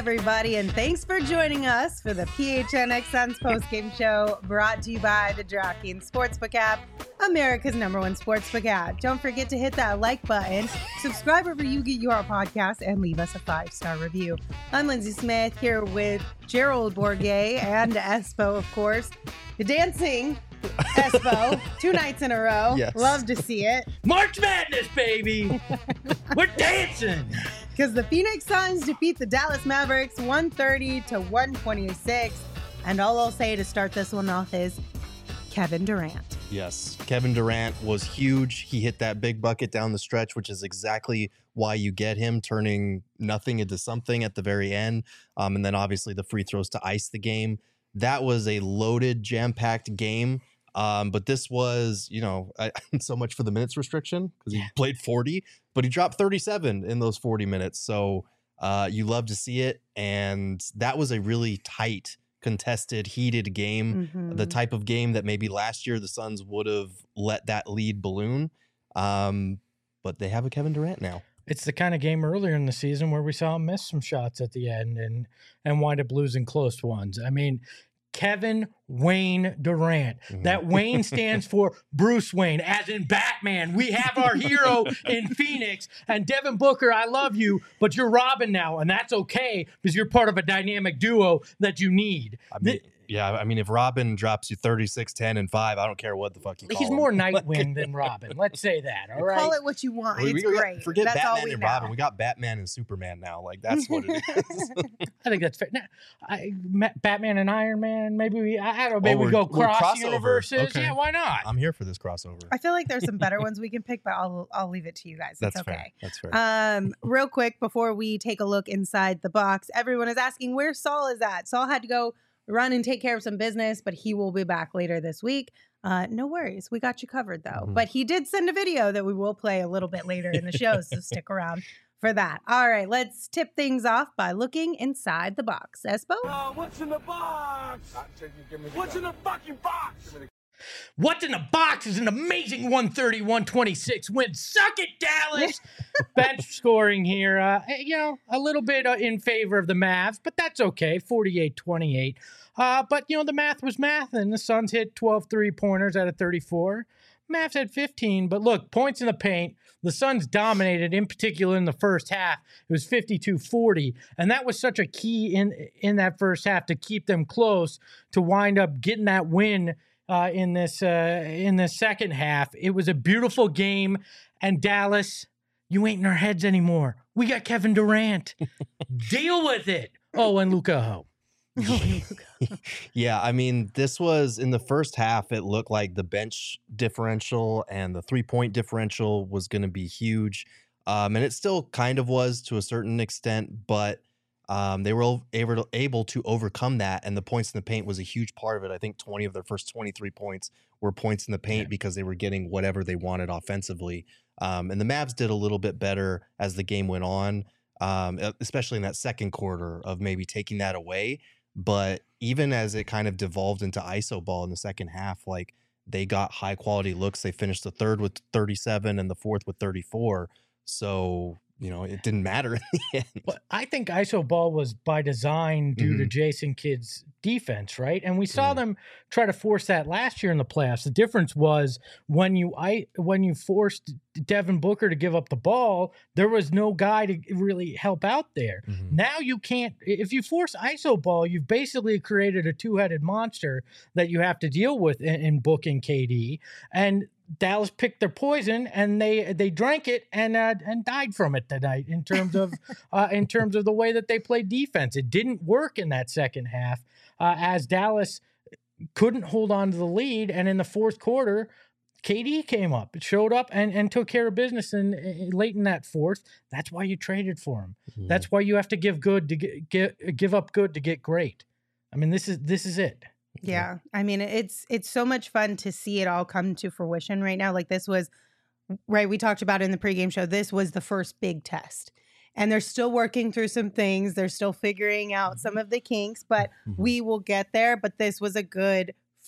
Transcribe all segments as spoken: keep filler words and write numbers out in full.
everybody, and thanks for joining us for the P H N X Suns postgame show brought to you by the DraftKings Sportsbook app, America's number one sportsbook app. Don't forget to hit that like button, subscribe wherever you get your podcast, and leave us a five-star review. I'm Lindsay Smith here with Gerald Bourguet and Espo, of course. The dancing Espo, two nights in a row. Yes. Love to see it. March Madness, baby. We're dancing. Because the Phoenix Suns defeat the Dallas Mavericks one thirty to one twenty-six. And all I'll say to start this one off is Kevin Durant. Yes, Kevin Durant was huge. He hit that big bucket down the stretch, which is exactly why you get him, turning nothing into something at the very end. Um, and then obviously the free throws to ice the game. That was a loaded, jam-packed game. Um, but this was, you know, I, so much for the minutes restriction because he played forty, but he dropped thirty-seven in those forty minutes. So uh, you love to see it. And that was a really tight, contested, heated game, Mm-hmm. the type of game that maybe last year the Suns would have let that lead balloon. Um, but they have a Kevin Durant now. It's the kind of game earlier in the season where we saw him miss some shots at the end and and wind up losing close ones. I mean, Kevin Wayne Durant. Mhm. That Wayne stands for Bruce Wayne, as in Batman. We have our hero in Phoenix. And Devin Booker, I love you, but you're Robin now, and that's okay because you're part of a dynamic duo that you need. I mean, yeah, I mean, if Robin drops you thirty-six, ten, and five, I don't care what the fuck you call He's him. more Nightwing than Robin. Let's say that, all right? Call it what you want. We- It's we got- great. Forget That's all Batman we and know. Robin. We got Batman and Superman now. Like, that's what it is. I think that's fair. Now, I, Ma- Batman and Iron Man, maybe we, I don't know, maybe Oh, we go we're- we're cross crossover. universes. Okay. Yeah, why not? I'm here for this crossover. I feel like there's some better ones we can pick, but I'll I'll leave it to you guys. It's That's fair. okay. That's fair. Um, real quick before we take a look inside the box, everyone is asking where Saul is at. Saul had to go run and take care of some business, but he will be back later this week. Uh, no worries, we got you covered though. Mhm. But he did send a video that we will play a little bit later in the show, so stick around for that. All right, let's tip things off by looking inside the box. Espo? Uh, what's in the box? What's in the fucking box? What's in the box is an amazing one thirty, one twenty-six win. Suck it, Dallas. Bench scoring here, uh, you know, a little bit uh, in favor of the Mavs, but that's okay, forty-eight twenty-eight. Uh, but, you know, the math was math, and the Suns hit twelve three-pointers out of thirty-four. Mavs had fifteen, but look, points in the paint. The Suns dominated, in particular in the first half. It was fifty-two forty, and that was such a key in in that first half to keep them close to wind up getting that win uh, in this uh, in the second half. It was a beautiful game, and Dallas, you ain't in our heads anymore. We got Kevin Durant. Deal with it. Oh, and Luka Ho. Yeah, I mean, this was in the first half, it looked like the bench differential and the three-point differential was going to be huge. Um, and it still kind of was to a certain extent, but um, they were able to, able to overcome that. And the points in the paint was a huge part of it. I think twenty of their first twenty-three points were points in the paint Yeah. because they were getting whatever they wanted offensively. Um, and the Mavs did a little bit better as the game went on, um, especially in that second quarter of maybe taking that away. But even as it kind of devolved into I S O ball in the second half, like they got high quality looks. They finished the third with thirty-seven and the fourth with thirty-four. So, you know, it didn't matter in the end. But I think I S O ball was by design due to Mhm. Jason Kidd's defense, right? And we saw Mhm. them try to force that last year in the playoffs. The difference was when you I when you forced Devin Booker to give up the ball, there was no guy to really help out there. Mhm. Now you can't. If you force I S O ball, you've basically created a two-headed monster that you have to deal with in, in Book and K D. And Dallas picked their poison and they they drank it and uh, and died from it tonight in terms of uh, in terms of the way that they played defense. It didn't work in that second half uh, as Dallas couldn't hold on to the lead, and in the fourth quarter, K D came up, it showed up and, and took care of business in, in late in that fourth. That's why you traded for him. Mhm. That's why you have to give good to get, get give up good to get great. I mean, this is this is it. Yeah. I mean, it's it's so much fun to see it all come to fruition right now. Like this was, right, we talked about in the pregame show, this was the first big test. And they're still working through some things. They're still figuring out some of the kinks, but Mhm. we will get there. But this was a good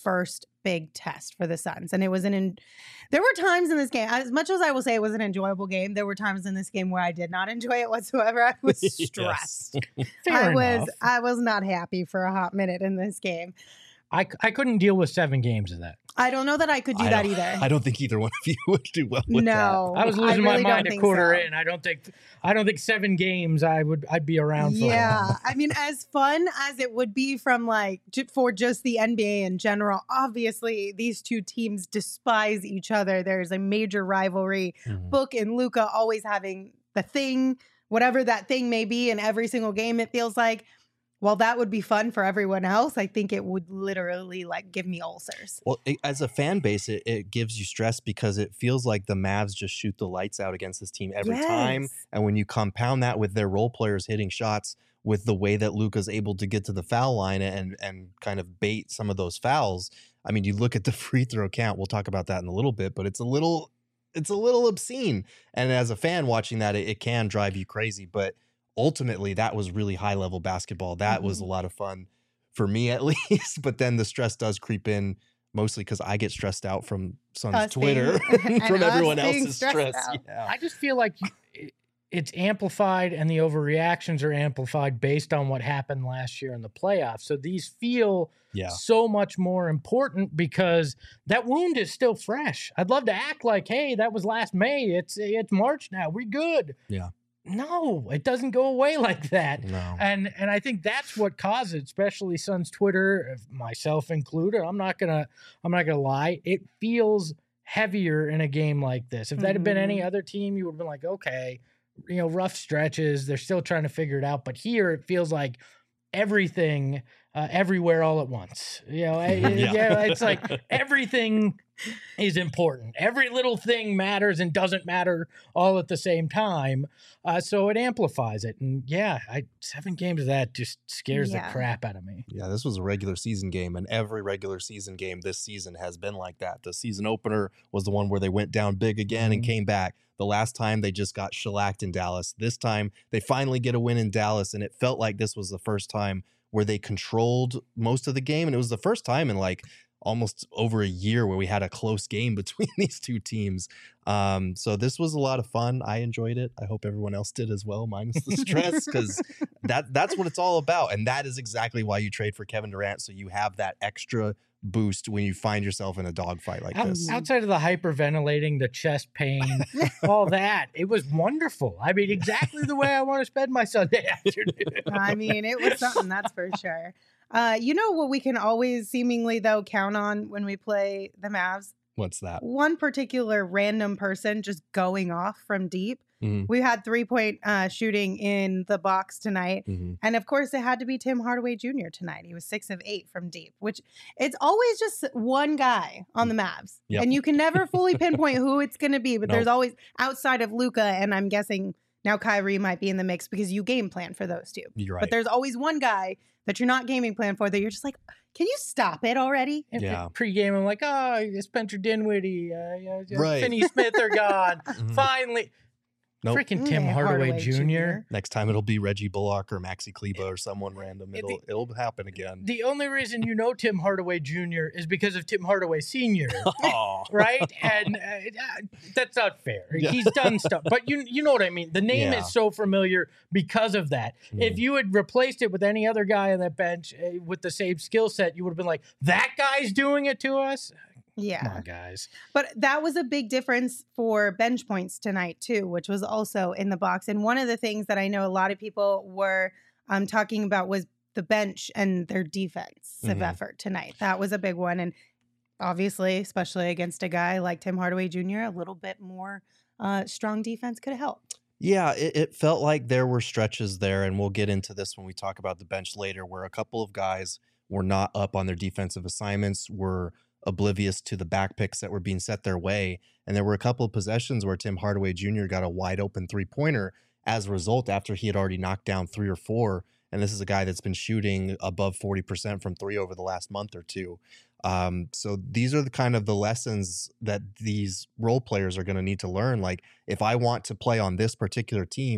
first big test for the Suns. And it was an, in, there were times in this game, as much as I will say it was an enjoyable game, there were times in this game where I did not enjoy it whatsoever. I was stressed. Fair I was, enough. I was not happy for a hot minute in this game. I, I couldn't deal with seven games of that. I don't know that I could do I that don't- either. I don't think either one of you would do well with no. I was losing really my mind don't a think quarter so. in. I don't think I don't think seven games I would I'd be around for. Yeah, I mean, as fun as it would be from like j- for just the N B A in general, obviously these two teams despise each other. There's a major rivalry. that. Book and Luca always having the thing, whatever that thing may be, in every single game. It feels like. While that would be fun for everyone else, I think it would literally like give me ulcers. Well, it, as a fan base, it, it gives you stress because it feels like the Mavs just shoot the lights out against this team every time. Yes. And when you compound that with their role players hitting shots, with the way that Luka's able to get to the foul line and and kind of bait some of those fouls, I mean, you look at the free throw count. We'll talk about that in a little bit, but it's a little, it's a little obscene. And as a fan watching that, it, it can drive you crazy. But ultimately, that was really high level basketball. That was a lot of fun for me, at least. But then the stress does creep in, mostly because I get stressed out from Suns Us Twitter, being- from and us everyone being else's stressed stress. out. Yeah. I just feel like you- it's amplified and the overreactions are amplified based on what happened last year in the playoffs. So these feel Yeah. so much more important because that wound is still fresh. I'd love to act like, hey, that was last May. It's it's March now. We're good. Yeah. No, it doesn't go away like that. No. And and I think that's what caused it, especially Suns Twitter, myself included. I'm not gonna I'm not gonna lie. It feels heavier in a game like this. If that had been any Mhm. other team, you would have been like, okay, you know, rough stretches. They're still trying to figure it out. But here it feels like everything, uh, everywhere, all at once. You know, I- Yeah. yeah, it's like everything is important. Every little thing matters and doesn't matter all at the same time. Uh, so it amplifies it. And yeah, I, seven games of that just scares Yeah. the crap out of me. Yeah, this was a regular season game, and every regular season game this season has been like that. The season opener was the one where they went down big again and Mhm. came back. The last time they just got shellacked in Dallas. This time they finally get a win in Dallas, and it felt like this was the first time where they controlled most of the game. And it was the first time in like almost over a year where we had a close game between these two teams. Um, so this was a lot of fun. I enjoyed it. I hope everyone else did as well, minus the stress, because that that's what it's all about. And that is exactly why you trade for Kevin Durant. So you have that extra boost when you find yourself in a dogfight like Out- this. Outside of the hyperventilating, the chest pain, all that, it was wonderful. I mean, exactly the way I want to spend my Sunday afternoon. I mean, it was something, that's for sure. Uh, you know what we can always seemingly, though, count on when we play the Mavs? What's that? One particular random person just going off from deep. Mhm. We had three-point uh, shooting in the box tonight. Mhm. And of course, it had to be Tim Hardaway Junior tonight. He was six of eight from deep, which it's always just one guy on the Mavs. Yep. And you can never fully pinpoint who it's going to be, but Nope. there's always outside of Luka, and I'm guessing now Kyrie might be in the mix because you game plan for those two. You're right. But there's always one guy that you're not gaming plan for that you're just like, can you stop it already? And Yeah. Pre-game, I'm like, oh, Spencer Dinwiddie, uh, yeah, yeah, Right. Finney Smith are gone. Mhm. Finally. Nope. Freaking Tim Mm, Hardaway, Hardaway Junior Junior Next time it'll be Reggie Bullock or Maxi Kleba or someone random. It- It'll it'll happen again. The only reason you know Tim Hardaway Junior is because of Tim Hardaway Senior, Aw. right? And uh, uh, that's not fair. Yeah. He's done stuff, but you you know what I mean. The name Yeah. is so familiar because of that. If Mhm. you had replaced it with any other guy on that bench uh, with the same skill set, you would have been like, "That guy's doing it to us." Come Yeah. on, guys. But that was a big difference for bench points tonight, too, which was also in the box. And one of the things that I know a lot of people were um, talking about was the bench and their defensive Mhm. effort tonight. That was a big one. And obviously, especially against a guy like Tim Hardaway Junior, a little bit more uh, strong defense could have helped. Yeah, it, it felt like there were stretches there, and we'll get into this when we talk about the bench later, where a couple of guys were not up on their defensive assignments, were oblivious to the back picks that were being set their way. And there were a couple of possessions where Tim Hardaway Junior got a wide open three pointer as a result after he had already knocked down three or four. And this is a guy that's been shooting above forty percent from three over the last month or two. Um, so these are the kind of the lessons that these role players are going to need to learn. Like, if I want to play on this particular team,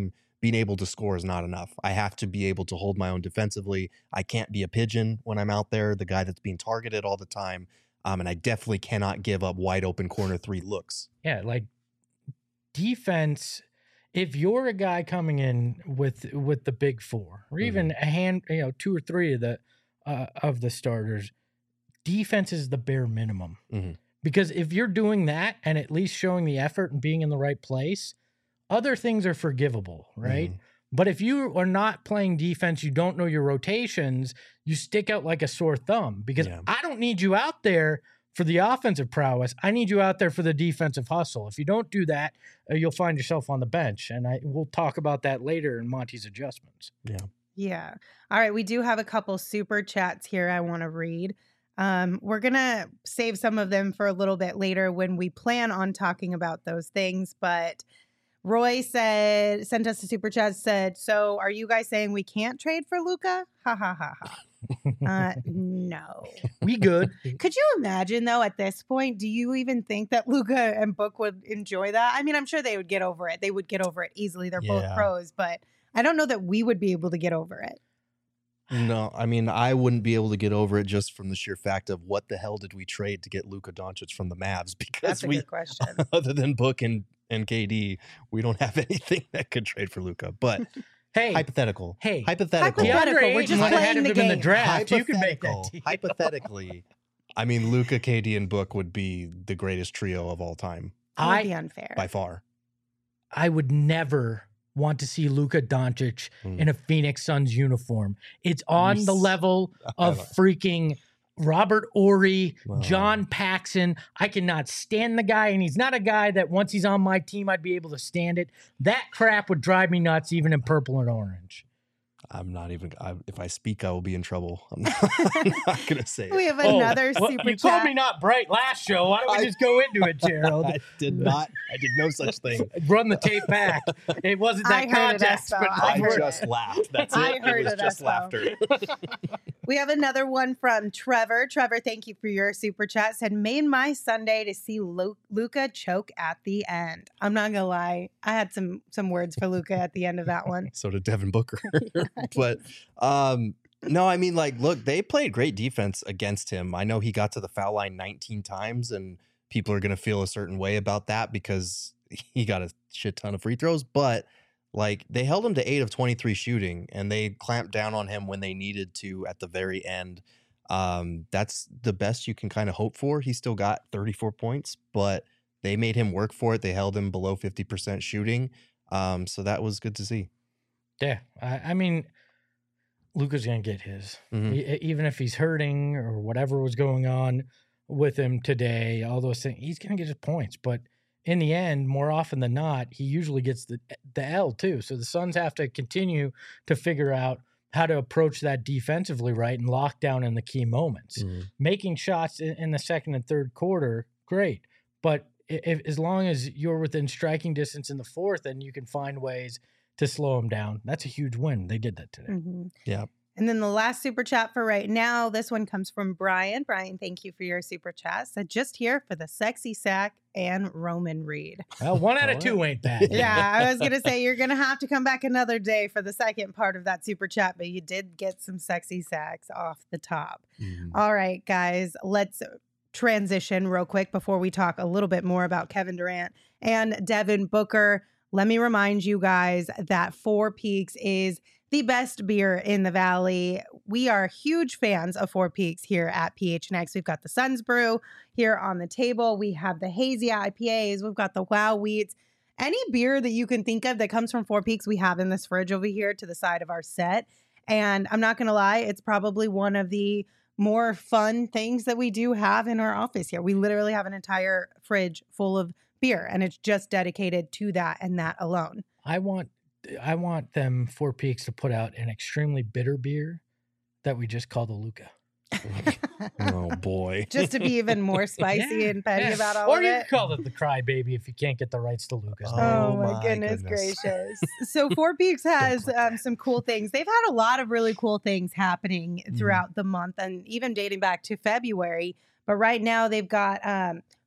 being able to score is not enough. I have to be able to hold my own defensively. I can't be a pigeon when I'm out there, the guy that's being targeted all the time. Um, and I definitely cannot give up wide open corner three looks. Yeah, like defense, if you're a guy coming in with with the big four, or even mm-hmm. a hand, you know, two or three of the uh, of the starters, defense is the bare minimum. Mm-hmm. Because if you're doing that and at least showing the effort and being in the right place, other things are forgivable, right? Mm-hmm. But if you are not playing defense, you don't know your rotations, you stick out like a sore thumb, because yeah. I don't need you out there for the offensive prowess. I need you out there for the defensive hustle. If you don't do that, uh, you'll find yourself on the bench. And I we'll talk about that later in Monty's adjustments. Yeah. Yeah. All right. We do have a couple super chats here I want to read. Um, we're going to save some of them for a little bit later when we plan on talking about those things. But Roy said, sent us a super chat, said, so are you guys saying we can't trade for Luka? Ha ha ha ha. Uh, no. We good. Could you imagine, though, at this point, do you even think that Luka and Book would enjoy that? I mean, I'm sure they would get over it. They would get over it easily. They're yeah. both pros, but I don't know that we would be able to get over it. No, I mean, I wouldn't be able to get over it just from the sheer fact of what the hell did we trade to get Luka Doncic from the Mavs? Because That's a we, good question. Other than Book and, and K D, we don't have anything that could trade for Luka. But hey, hypothetical. Hey, hypothetical. Hypothetical. We're just playing ahead of the him game. in the draft. You can make that team. Hypothetically, I mean, Luka, K D, and Book would be the greatest trio of all time. That would I, be unfair. By far. I would never want to see Luka Doncic mm. in a Phoenix Suns uniform. It's on yes. the level of freaking Robert Horry, wow. John Paxson. I cannot stand the guy, and he's not a guy that once he's on my team, I'd be able to stand it. That crap would drive me nuts, even in purple and orange. I'm not even, I, if I speak, I will be in trouble. I'm not, I'm not going to say it. We have another oh, super well, you chat. called me not bright last show. Why don't we I, just go into it, Gerald? I did not. I did no such thing. Run the tape back. It wasn't that context, it, but I, I just laughed. That's it. I heard it was it, just laughter. We have another one from Trevor. Trevor, thank you for your super chat. Said, made my Sunday to see Lu- Luka choke at the end. I'm not going to lie. I had some some words for Luka at the end of that one. So did Devin Booker. But um, no, I mean, like, look, they played great defense against him. I know he got to the foul line nineteen times, and people are going to feel a certain way about that because he got a shit ton of free throws. But like, they held him to eight of twenty-three shooting, and they clamped down on him when they needed to at the very end. Um, that's the best you can kind of hope for. He still got thirty-four points, but they made him work for it. They held him below fifty percent shooting. Um, so that was good to see. Yeah. I, I mean, Luka's going to get his. Mm-hmm. He, even if he's hurting or whatever was going on with him today, all those things, he's going to get his points. But in the end, more often than not, he usually gets the the L too. So the Suns have to continue to figure out how to approach that defensively right and lock down in the key moments. Mm-hmm. Making shots in, in the second and third quarter, great. But if, as long as you're within striking distance in the fourth and you can find ways to slow him down, that's a huge win. They did that today. Mm-hmm. Yeah. And then the last super chat for right now, this one comes from Brian. Brian, thank you for your super chat. Said, just here for the sexy sack and Roman Reed. Well, one out of two ain't bad. Yeah, I was going to say, you're going to have to come back another day for the second part of that super chat, but you did get some sexy sacks off the top. Mm. All right, guys, let's transition real quick before we talk a little bit more about Kevin Durant and Devin Booker. Let me remind you guys that Four Peaks is the best beer in the Valley. We are huge fans of Four Peaks here at P H N X. We've got the Suns Brew here on the table. We have the Hazy I P As. We've got the Wow Wheats. Any beer that you can think of that comes from Four Peaks, we have in this fridge over here to the side of our set. And I'm not going to lie, it's probably one of the more fun things that we do have in our office here. We literally have an entire fridge full of beer, and it's just dedicated to that and that alone. I want I want them Four Peaks to put out an extremely bitter beer that we just call the Luka. Oh boy. Just to be even more spicy yeah, and petty yeah. about all or of you it. can call it the Crybaby if you can't get the rights to Luka's. Oh, Oh, my, my goodness, goodness. gracious. So Four Peaks has um, some cool things. They've had a lot of really cool things happening throughout mm. the month and even dating back to February. But right now they've got um,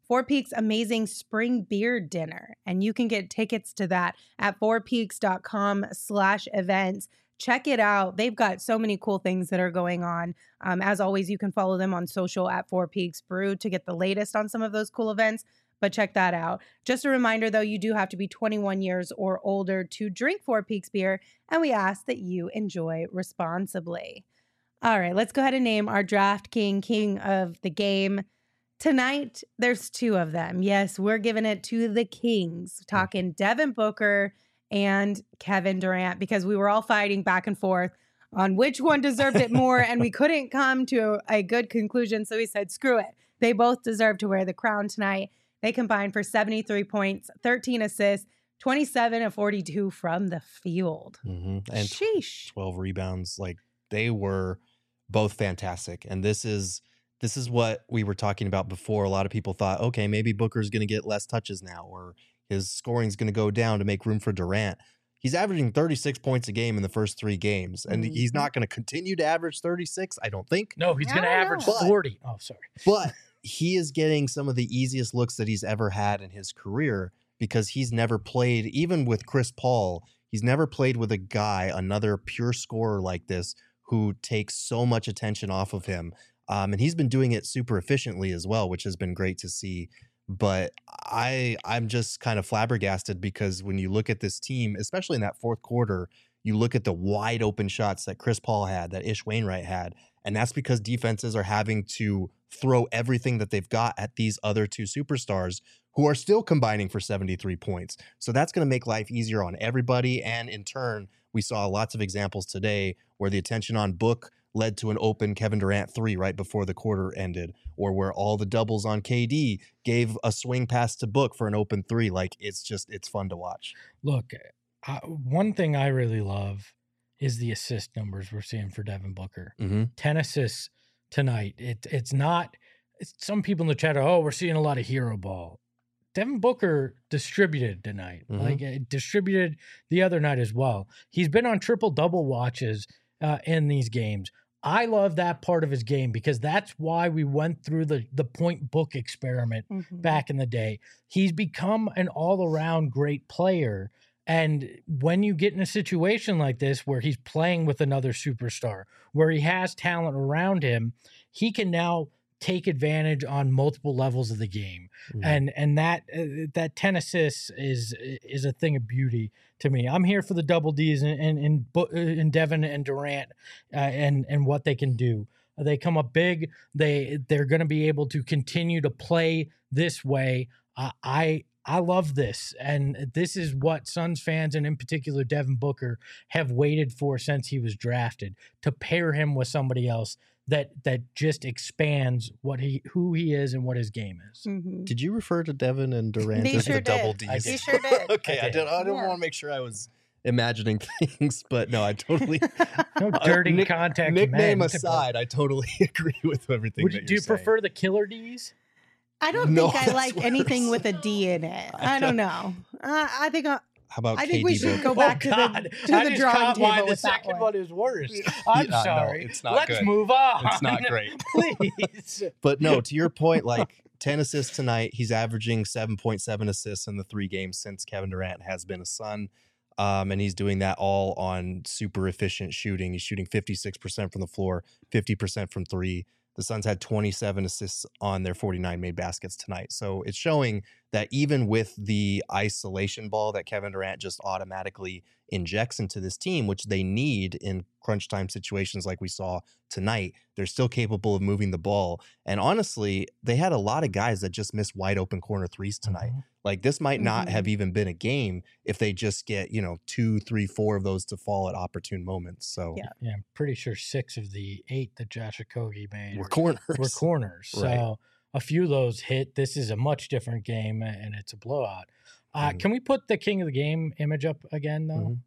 Four Peaks amazing spring beer dinner. And you can get tickets to that at fourpeaks.com slash events. Check it out. They've got so many cool things that are going on. Um, as always, you can follow them on social at Four Peaks Brew to get the latest on some of those cool events. But check that out. Just a reminder, though, you do have to be twenty-one years or older to drink Four Peaks beer, and we ask that you enjoy responsibly. All right, let's go ahead and name our Draft King, king of the game. Tonight, there's two of them. Yes, we're giving it to the Kings, talking Devin Booker and Kevin Durant, because we were all fighting back and forth on which one deserved it more, and we couldn't come to a good conclusion, so we said, screw it. They both deserve to wear the crown tonight. They combined for seventy-three points, thirteen assists, twenty-seven of forty-two from the field. Mm-hmm. And Sheesh. twelve rebounds. Like, they were both fantastic. And this is this is what we were talking about before. A lot of people thought, okay, maybe Booker's going to get less touches now, or his scoring's going to go down to make room for Durant. He's averaging thirty-six points a game in the first three games, and mm-hmm. he's not going to continue to average thirty-six, I don't think. No, he's going to average but, forty. Oh, sorry. But he is getting some of the easiest looks that he's ever had in his career, because he's never played, even with Chris Paul, he's never played with a guy, another pure scorer like this, who takes so much attention off of him. Um, and he's been doing it super efficiently as well, which has been great to see. But I, I'm just kind of flabbergasted, because when you look at this team, especially in that fourth quarter, you look at the wide open shots that Chris Paul had, that Ish Wainwright had, and that's because defenses are having to throw everything that they've got at these other two superstars who are still combining for seventy-three points. So that's going to make life easier on everybody. And in turn, we saw lots of examples today where the attention on Book led to an open Kevin Durant three right before the quarter ended, or where all the doubles on K D gave a swing pass to Book for an open three. Like, it's just, it's fun to watch. Look, uh, one thing I really love is the assist numbers we're seeing for Devin Booker. Mm-hmm. ten assists tonight. It, it's not, it's, some people in the chat are, oh, we're seeing a lot of hero ball. Devin Booker distributed tonight, mm-hmm. like uh, distributed the other night as well. He's been on triple double watches uh, in these games. I love that part of his game, because that's why we went through the, the point book experiment mm-hmm. back in the day. He's become an all around great player. And when you get in a situation like this, where he's playing with another superstar, where he has talent around him, he can now take advantage on multiple levels of the game. Mm-hmm. And and that uh, that ten assists is is a thing of beauty to me. I'm here for the double Ds and in, in, in, in Devin and Durant uh, and and what they can do. They come up big. They they're going to be able to continue to play this way. Uh, I I love this, and this is what Suns fans, and in particular Devin Booker, have waited for since he was drafted, to pair him with somebody else that that just expands what he who he is and what his game is. Mm-hmm. Did you refer to Devin and Durant They as sure the double did. Ds? He sure did. Okay, I I did. did. I didn't Yeah. want to make sure I was imagining things, but no, I totally. No dirty Uh, nick- contact. Nickname meant, aside, I totally agree with everything. Would that you, do you you're saying. prefer the killer Ds? I don't No, think I that's like worse. anything with a D in it. I don't know. Uh, I think uh, How about I think K D we should Book? go back to oh, God. the to I the just drawing caught why table the with that second one. one is worse. I'm Yeah, no, sorry. it's not Let's good. move on. It's not great. Please. But no, to your point, like ten assists tonight. He's averaging seven point seven assists in the three games since Kevin Durant has been a Sun. Um, and he's doing that all on super efficient shooting. He's shooting fifty-six percent from the floor, fifty percent from three. The Suns had twenty-seven assists on their forty-nine made baskets tonight. So it's showing that even with the isolation ball that Kevin Durant just automatically injects into this team, which they need in crunch time situations like we saw tonight, they're still capable of moving the ball. And honestly, they had a lot of guys that just missed wide open corner threes tonight. Mm-hmm. Like, this might not Mhm. have even been a game if they just get, you know, two, three, four of those to fall at opportune moments. So Yeah. Yeah, I'm pretty sure six of the eight that Josh Okogie made we're corners. were corners. Right. So a few of those hit. This is a much different game, and it's a blowout. Uh, Mhm. Can we put the King of the Game image up again, though?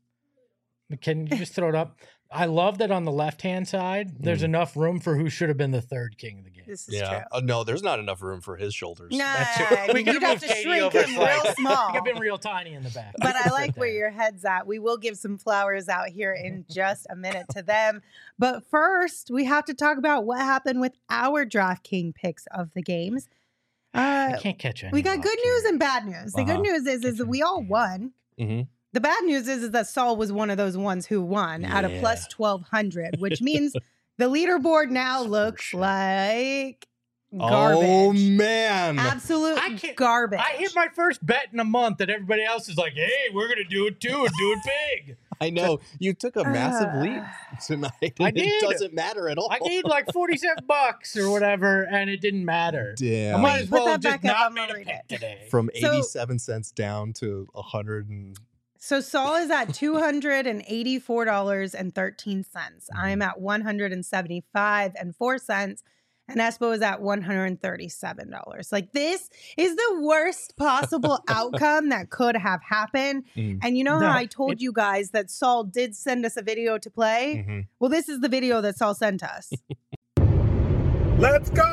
Can you just throw it up? I love that on the left-hand side, there's Mhm. enough room for who should have been the third King of the Game. This is Yeah. true. Uh, no, there's not enough room for his shoulders. Nah, That's it. I We mean, could've you'd have moved to Katie shrink over him real slightly. small. Could have been real tiny in the back. But I like where Right your head's at. We will give some flowers out here in just a minute to them. But first, we have to talk about what happened with our DraftKings picks of the games. I Uh, can't catch any. we got luck good here. news and bad news. The Uh-huh. good news is, is that we all won. Mm-hmm. The bad news is, is that Saul was one of those ones who won at a Yeah. plus twelve hundred, which means the leaderboard now For looks sure. like Oh garbage. man. Absolute I can't- garbage. I hit my first bet in a month, and everybody else is like, "Hey, we're gonna do it too, and do it big." I know you took a massive leap tonight. I and did. It doesn't matter at all. I gained like forty-seven bucks or whatever, and it didn't matter. I Damn. might as Put well that have just back up, not I'm gonna made a read pick it. today. From So- eighty-seven cents down to a hundred and So Saul is at two hundred eighty-four dollars and thirteen cents. I'm at one hundred seventy-five dollars and four cents. And Espo is at one hundred thirty-seven dollars. Like, this is the worst possible outcome that could have happened. Mm. And you know No, how I told it- you guys that Saul did send us a video to play? Mhm. Well, this is the video that Saul sent us. Let's go!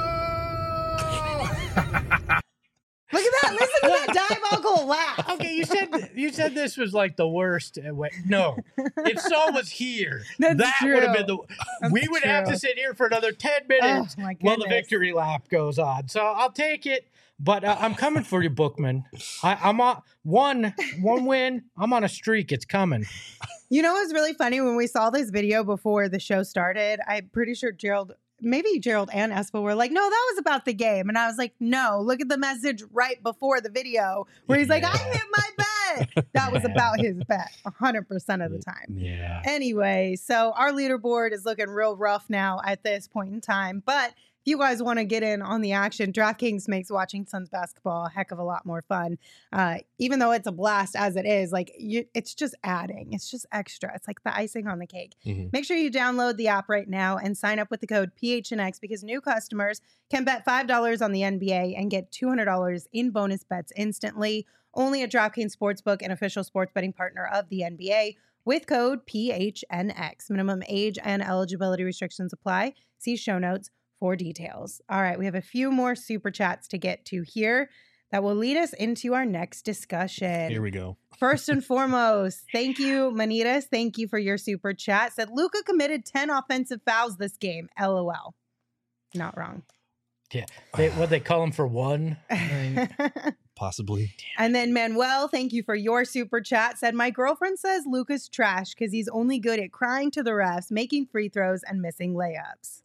Look at that. Listen to that diabolical laugh. Okay, you said you said this was like the worst. uh, way- No, if Saul was here, That's that would have true. been the. That's we would have true. to sit here for another ten minutes Oh, my while the goodness. victory lap goes on. So I'll take it. But uh, I'm coming for you, Bookman. I, I'm on one one win. I'm on a streak. It's coming. You know what's really funny? When we saw this video before the show started, I'm pretty sure Gerald, maybe Gerald and Espo were like, no, that was about the game. And I was like, no, look at the message right before the video where he's like, I Yeah. hit my bet. That was Yeah. about his bet one hundred percent of the time. Yeah. Anyway, so our leaderboard is looking real rough now at this point in time. But if you guys want to get in on the action, DraftKings makes watching Suns basketball a heck of a lot more fun. Uh, even though it's a blast as it is, like you, it's just adding. It's just extra. It's like the icing on the cake. Mhm. Make sure you download the app right now and sign up with the code P H N X because new customers can bet five dollars on the N B A and get two hundred dollars in bonus bets instantly. Only at DraftKings Sportsbook, an official sports betting partner of the N B A. With code P H N X. Minimum age and eligibility restrictions apply. See show notes for details. All right, we have a few more super chats to get to here that will lead us into our next discussion. Here we go. First and foremost, thank you, Manitas. Thank you for your super chat. Said Luka committed ten offensive fouls this game. L O L. Not wrong. Yeah. They, what they call him for one? I mean, Possibly. And then Manuel, thank you for your super chat. Said, my girlfriend says Luka's trash because he's only good at crying to the refs, making free throws, and missing layups.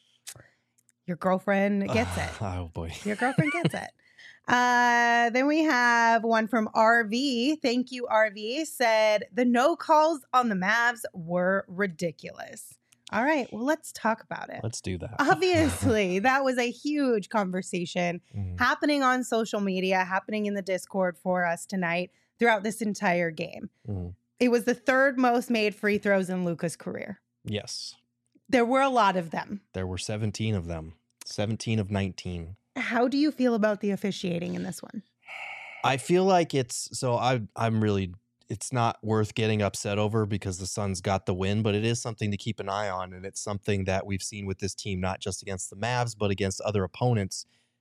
Your girlfriend gets it. Oh boy. Your girlfriend gets it. Uh, then we have one from R V. Thank you, R V. Said the no calls on the Mavs were ridiculous. All right, well, let's talk about it. Let's do that. Obviously, that was a huge conversation Mhm. happening on social media, happening in the Discord for us tonight throughout this entire game. Mhm. It was the third most made free throws in Luka's career. Yes. There were a lot of them. There were seventeen of them. seventeen of nineteen. How do you feel about the officiating in this one? I feel like it's so I I'm really it's not worth getting upset over because the Suns got the win, but it is something to keep an eye on, and it's something that we've seen with this team not just against the Mavs but against other opponents.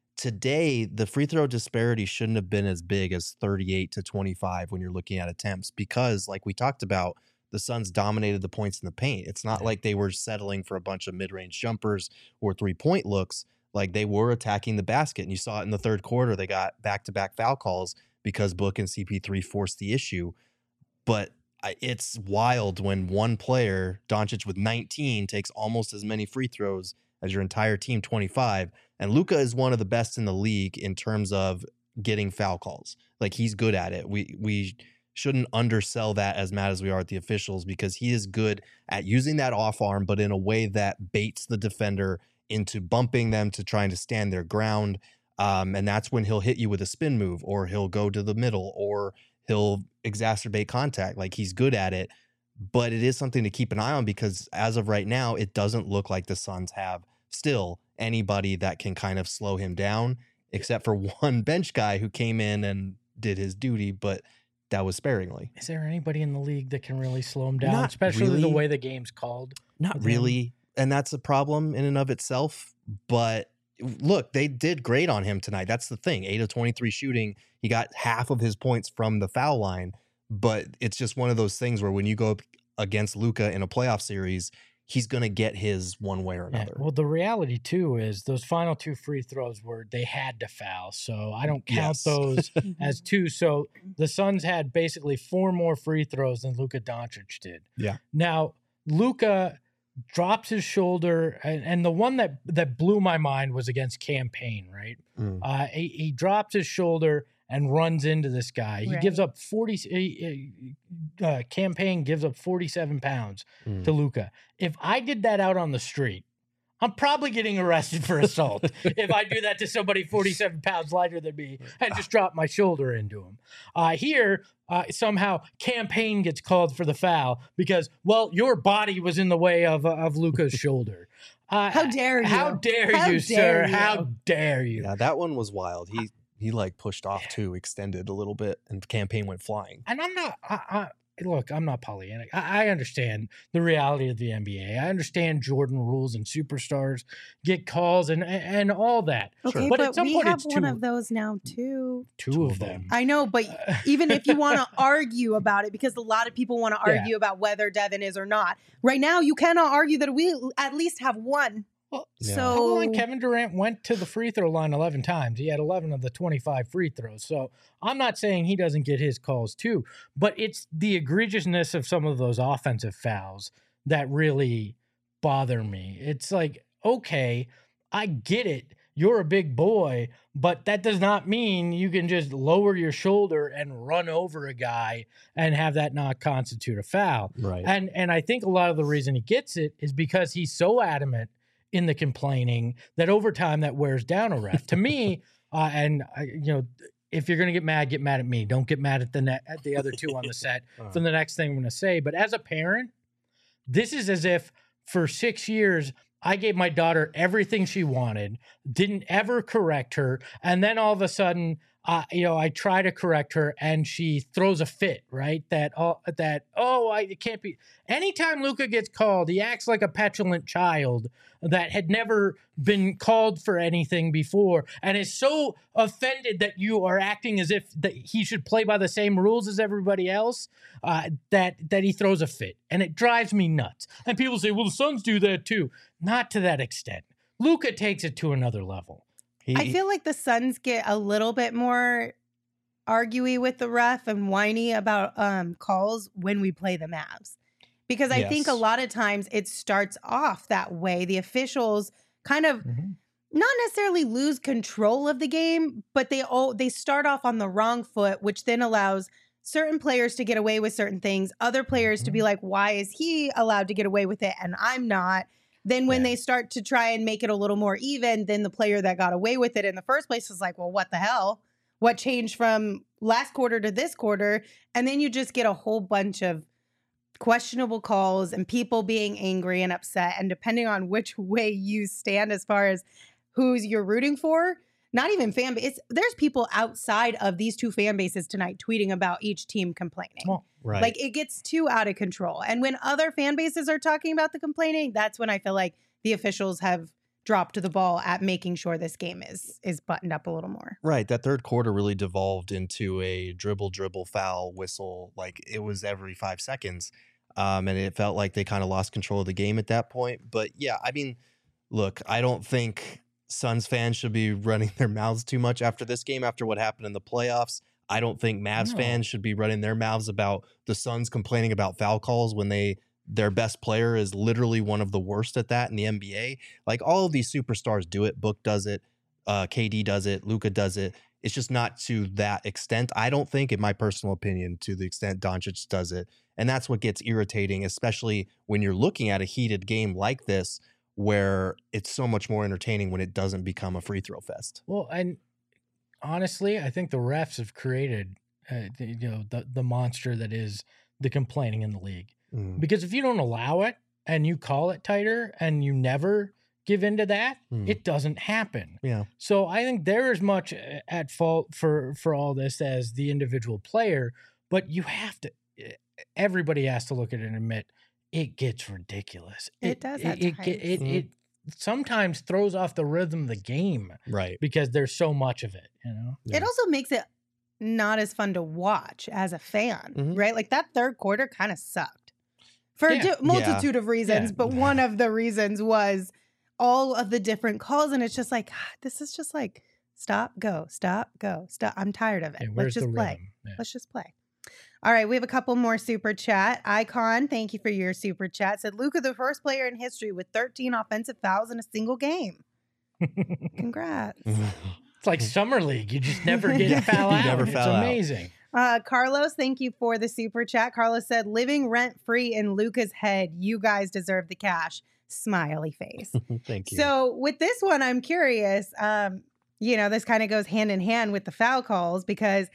Today, the free throw disparity shouldn't have been as big as thirty-eight to twenty-five when you're looking at attempts because, like we talked about, the Suns dominated the points in the paint. It's not like they were settling for a bunch of mid-range jumpers or three-point looks. Like they were attacking the basket, and you saw it in the third quarter. They got back-to-back foul calls because Book and C P three forced the issue. But I- it's wild when one player, Doncic with nineteen, takes almost as many free throws as your entire team, twenty-five. And Luka is one of the best in the league in terms of getting foul calls. Like he's good at it. We we shouldn't undersell that as mad as we are at the officials because he is good at using that off arm, but in a way that baits the defender into bumping them to trying to stand their ground. Um, and that's when he'll hit you with a spin move or he'll go to the middle or he'll exacerbate contact. Like he's good at it, but it is something to keep an eye on because as of right now, it doesn't look like the Suns have still anybody that can kind of slow him down except for one bench guy who came in and did his duty, but that was sparingly. is there anybody in the league that can really slow him down, Not especially the really. way the game's called? Not with him. really. And that's a problem in and of itself. But look, they did great on him tonight. That's the thing. eight of twenty-three shooting. He got half of his points from the foul line. But it's just one of those things where when you go up against Luka in a playoff series, he's going to get his one way or Yeah, another. well, the reality too is those final two free throws were they had to foul, so I don't count Yes. those as two. So the Suns had basically four more free throws than Luka Doncic did. Yeah. Now Luka drops his shoulder, and, and the one that that blew my mind was against Campaign. Right, Mm. uh, he, he drops his shoulder and runs into this guy. He Right. gives up forty. he- Uh, Campaign gives up forty-seven pounds Mm. to Luka. If I did that out on the street, I'm probably getting arrested for assault if I do that to somebody forty-seven pounds lighter than me and just drop my shoulder into him. Uh, here, uh, somehow, Campaign gets called for the foul because, well, your body was in the way of of Luka's shoulder. Uh, How dare you? How dare How you, dare sir? How you. dare you? Yeah, that one was wild. He he like pushed off too, extended a little bit, and Campaign went flying. And I'm not. I, I, look, I'm not Pollyanna. I, I understand the reality of the N B A. I understand Jordan rules and superstars get calls and and, and all that. Okay, But but, at some we point, have it's one two- of those now too. Two, Two of of them. them. I know, but even if you want to argue about it, because a lot of people want to Yeah. argue about whether Devin is or not. Right now, you cannot argue that we at least have one. Well, Yeah. So Hold on, Kevin Durant went to the free throw line eleven times. He had eleven of the twenty-five free throws. So I'm not saying he doesn't get his calls too, but it's the egregiousness of some of those offensive fouls that really bother me. It's like, okay, I get it. You're a big boy, but that does not mean you can just lower your shoulder and run over a guy and have that not constitute a foul. Right. And and I think a lot of the reason he gets it is because he's so adamant in the complaining that over time that wears down a ref. To me, uh, and I, you know, if you're gonna get mad, get mad at me. Don't get mad at the net at the other two on the set for the next thing I'm gonna say. But as a parent, this is as if for six years I gave my daughter everything she wanted, didn't ever correct her, and then all of a sudden, uh, you know, I try to correct her and she throws a fit, right? That oh, that oh, I it can't be. Anytime Luka gets called, he acts like a petulant child that had never been called for anything before, and is so offended that you are acting as if that he should play by the same rules as everybody else. Uh, that that he throws a fit, and it drives me nuts. And people say, "Well, the Suns do that too." Not to that extent. Luka takes it to another level. He, I feel like the Suns get a little bit more arguey with the ref and whiny about um, calls when we play the Mavs. Because I think a Yes. lot of times it starts off that way. The officials kind of not necessarily lose control of the game, but they all they start off on the wrong foot, which then allows certain players to get away with certain things, other players to be like, why is he allowed to get away with it and I'm not? Then when Yeah. they start to try and make it a little more even, then the player that got away with it in the first place is like, well, what the hell? What changed from last quarter to this quarter? And then you just get a whole bunch of questionable calls and people being angry and upset. And depending on which way you stand as far as who's you're rooting for, not even fan base, there's people outside of these two fan bases tonight tweeting about each team complaining. Well, right. Like it gets too out of control. And when other fan bases are talking about the complaining, that's when I feel like the officials have dropped the ball at making sure this game is is buttoned up a little more. Right. That third quarter really devolved into a dribble, dribble, foul, whistle. Like it was every five seconds. Um, and it felt like they kind of lost control of the game at that point. But yeah, I mean, look, I don't think Suns fans should be running their mouths too much after this game, after what happened in the playoffs. I don't think Mavs No. fans should be running their mouths about the Suns complaining about foul calls when they their best player is literally one of the worst at that in the N B A. Like all of these superstars do it. Book does it. Uh, K D does it. Luka does it. It's just not to that extent. I don't think, in my personal opinion, to the extent Doncic does it. And that's what gets irritating, especially when you're looking at a heated game like this, where it's so much more entertaining when it doesn't become a free throw fest. Well, and honestly, I think the refs have created, uh, the, you know, the the monster that is the complaining in the league. Mm. Because if you don't allow it and you call it tighter and you never give into that, Mm. it doesn't happen. Yeah. So I think they're as much at fault for for all this as the individual player. But you have to. Everybody has to look at it and admit it gets ridiculous. It does at It, times. it, it, Mhm. it sometimes throws off the rhythm of the game Right. because there's so much of it. You know. Yeah. It also makes it not as fun to watch as a fan, Mhm. right? Like that third quarter kind of sucked. for Yeah. a di- multitude of reasons, Yeah. but one of the reasons was all of the different calls. And it's just like, God, this is just like, stop, go, stop, go, stop. I'm tired of it. Yeah, Let's where's just the play. rhythm? Yeah. Let's just play. All right, we have a couple more super chat. Icon, thank you for your super chat. Said Luka, the first player in history with thirteen offensive fouls in a single game. Congrats. It's like summer league. You just never get You a foul out. never it's foul out. amazing. Uh, Carlos, thank you for the super chat. Carlos said, living rent free in Luka's head. You guys deserve the cash. Smiley face. Thank you. So with this one, I'm curious. Um, you know, this kind of goes hand in hand with the foul calls because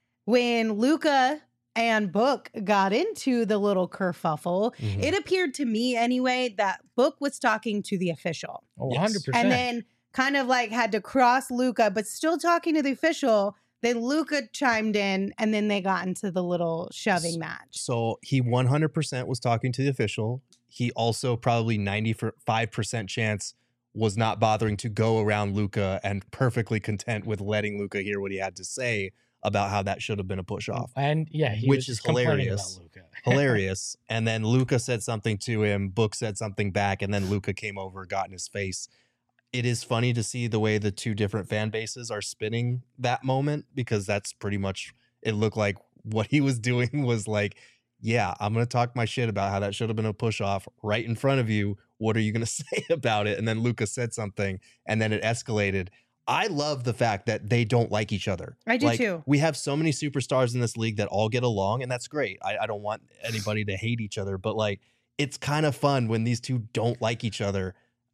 when Luka and Book got into the little kerfuffle, Mhm. it appeared to me anyway that Book was talking to the official Oh, Yes. one hundred percent. and then kind of like had to cross Luka, but still talking to the official. Then Luka chimed in and then they got into the little shoving match. So he one hundred percent was talking to the official. He also probably ninety-five percent chance was not bothering to go around Luka and perfectly content with letting Luka hear what he had to say about how that should have been a push off. And yeah, he Which was is complaining hilarious. about Luka. Hilarious. And then Luka said something to him, Book said something back, and then Luka came over, got in his face. It is funny to see the way the two different fan bases are spinning that moment because that's pretty much, it looked like what he was doing was like, yeah, I'm going to talk my shit about how that should have been a push off right in front of you. What are you going to say about it? And then Luka said something and then it escalated. I love the fact that they don't like each other. I do Like, too. We have so many superstars in this league that all get along, and that's great. I, I don't want anybody to hate each other, but like, it's kind of fun when these two don't like each other,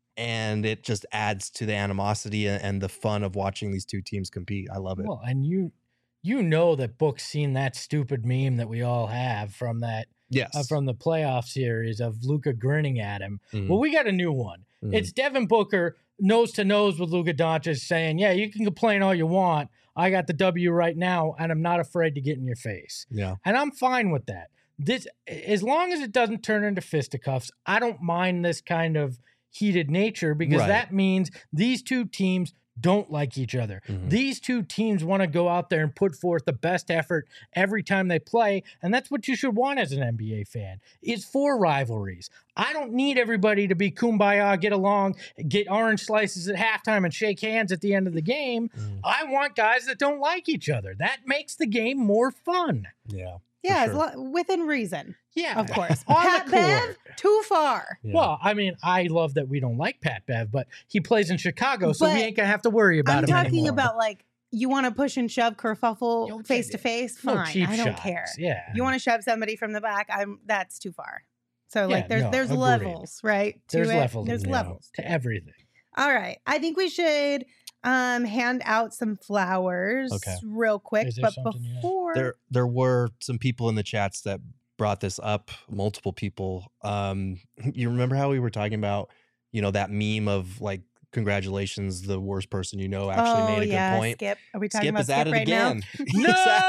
and it just adds to the animosity and, and the fun of watching these two teams compete. I love it. Well, and you you know that Book's seen that stupid meme that we all have from that Yes. uh, from the playoff series of Luka grinning at him. Mhm. Well, we got a new one. Mhm. It's Devin Booker nose to nose with Luka Doncic saying, "Yeah, you can complain all you want. I got the W right now, and I'm not afraid to get in your face." Yeah. And I'm fine with that. This, as long as it doesn't turn into fisticuffs, I don't mind this kind of heated nature because Right. that means these two teams don't like each other. Mhm. These two teams want to go out there and put forth the best effort every time they play, and that's what you should want as an N B A fan. Is for rivalries. I don't need everybody to be kumbaya, get along, get orange slices at halftime and shake hands at the end of the game. Mhm. I want guys that don't like each other. That makes the game more fun. Yeah. Yeah, sure. as lo- within reason, Yeah, of course. On Pat the Bev, court. too far. Yeah. Well, I mean, I love that we don't like Pat Bev, but he plays in Chicago, so But we ain't gonna have to worry about I'm him talking anymore. about like you want to push and shove kerfuffle Yo, face to face. no Fine, cheap I don't shots. care. Yeah, You want to shove somebody from the back? I'm. That's too far. So like, Yeah, there's no, there's agreed. levels, right? to there's it. levels. There's you know, levels to everything. All right. I think we should um hand out some flowers Okay. real quick. Is there But something you have? before there there were some people in the chats that brought this up, multiple people. Um, you remember how we were talking about, you know, that meme of like, congratulations, the worst person you know actually oh, made a yeah, good point. Skip. Are we talking Skip about is Skip at it right again. He's No! at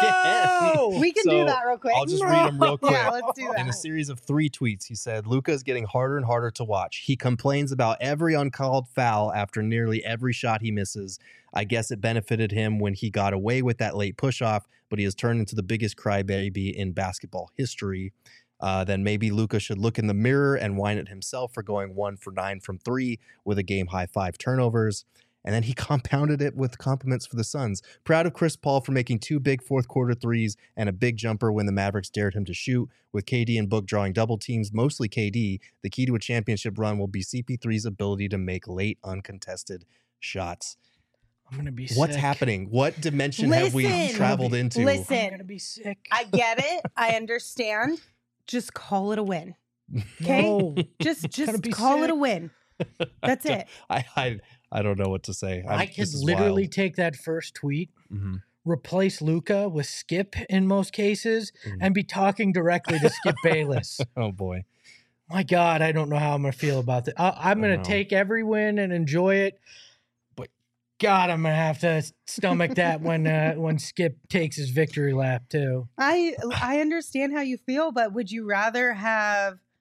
it again. now? We can So, do that real quick. I'll just read them real quick. Yeah, let's do In a that. series of three tweets, he said, Luka is getting harder and harder to watch. He complains about every uncalled foul after nearly every shot he misses. I guess it benefited him when he got away with that late push-off, but he has turned into the biggest crybaby in basketball history. Uh, then maybe Luka should look in the mirror and whine at himself for going one for nine from three with a game-high five turnovers. And then he compounded it with compliments for the Suns. Proud of Chris Paul for making two big fourth quarter threes and a big jumper when the Mavericks dared him to shoot. With K D and Book drawing double teams, mostly K D, the key to a championship run will be C P three's ability to make late uncontested shots. I'm gonna be. What's sick. happening? What dimension have we Listen. traveled into? Listen. I'm gonna be sick. I get it. I understand. Just call it a win. Okay? No. Just Gonna just be call it a sick. win. That's it. I, I I don't know what to say. I'm, I could this is literally wild. take that first tweet, Mhm. replace Luca with Skip in most cases, Mhm. and be talking directly to Skip Bayless. Oh boy. My God, I don't know how I'm going to feel about that. I, I'm going I to know. take every win and enjoy it, but God, I'm going to have to stomach that when uh, when Skip takes his victory lap too. I I understand how you feel, but would you rather have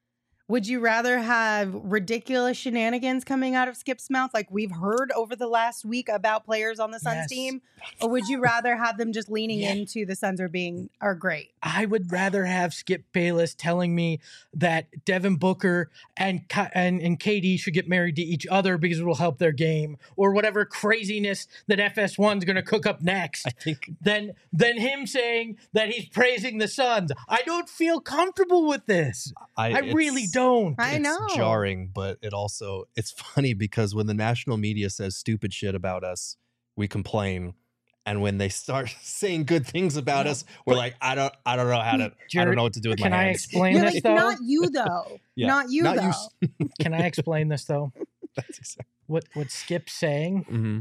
Would you rather have ridiculous shenanigans coming out of Skip's mouth like we've heard over the last week about players on the Suns Yes. team? Or would you rather have them just leaning Yeah. into the Suns are being are great? I would rather have Skip Bayless telling me that Devin Booker and Ka- and, and K D should get married to each other because it will help their game, or whatever craziness that F S one's going to cook up next. I think Than than him saying that he's praising the Suns. I don't feel comfortable with this. I, I really it's- don't. I it's know. jarring, but it also it's funny because when the national media says stupid shit about us, we complain. And when they start saying good things about No, us, we're like, I don't I don't know how to I Jared, don't know what to do with Can my I hands. explain You're this like, though? not you though. Yeah. Not you Not though. you s- Can I explain this though? That's exactly. What what Skip's saying hmm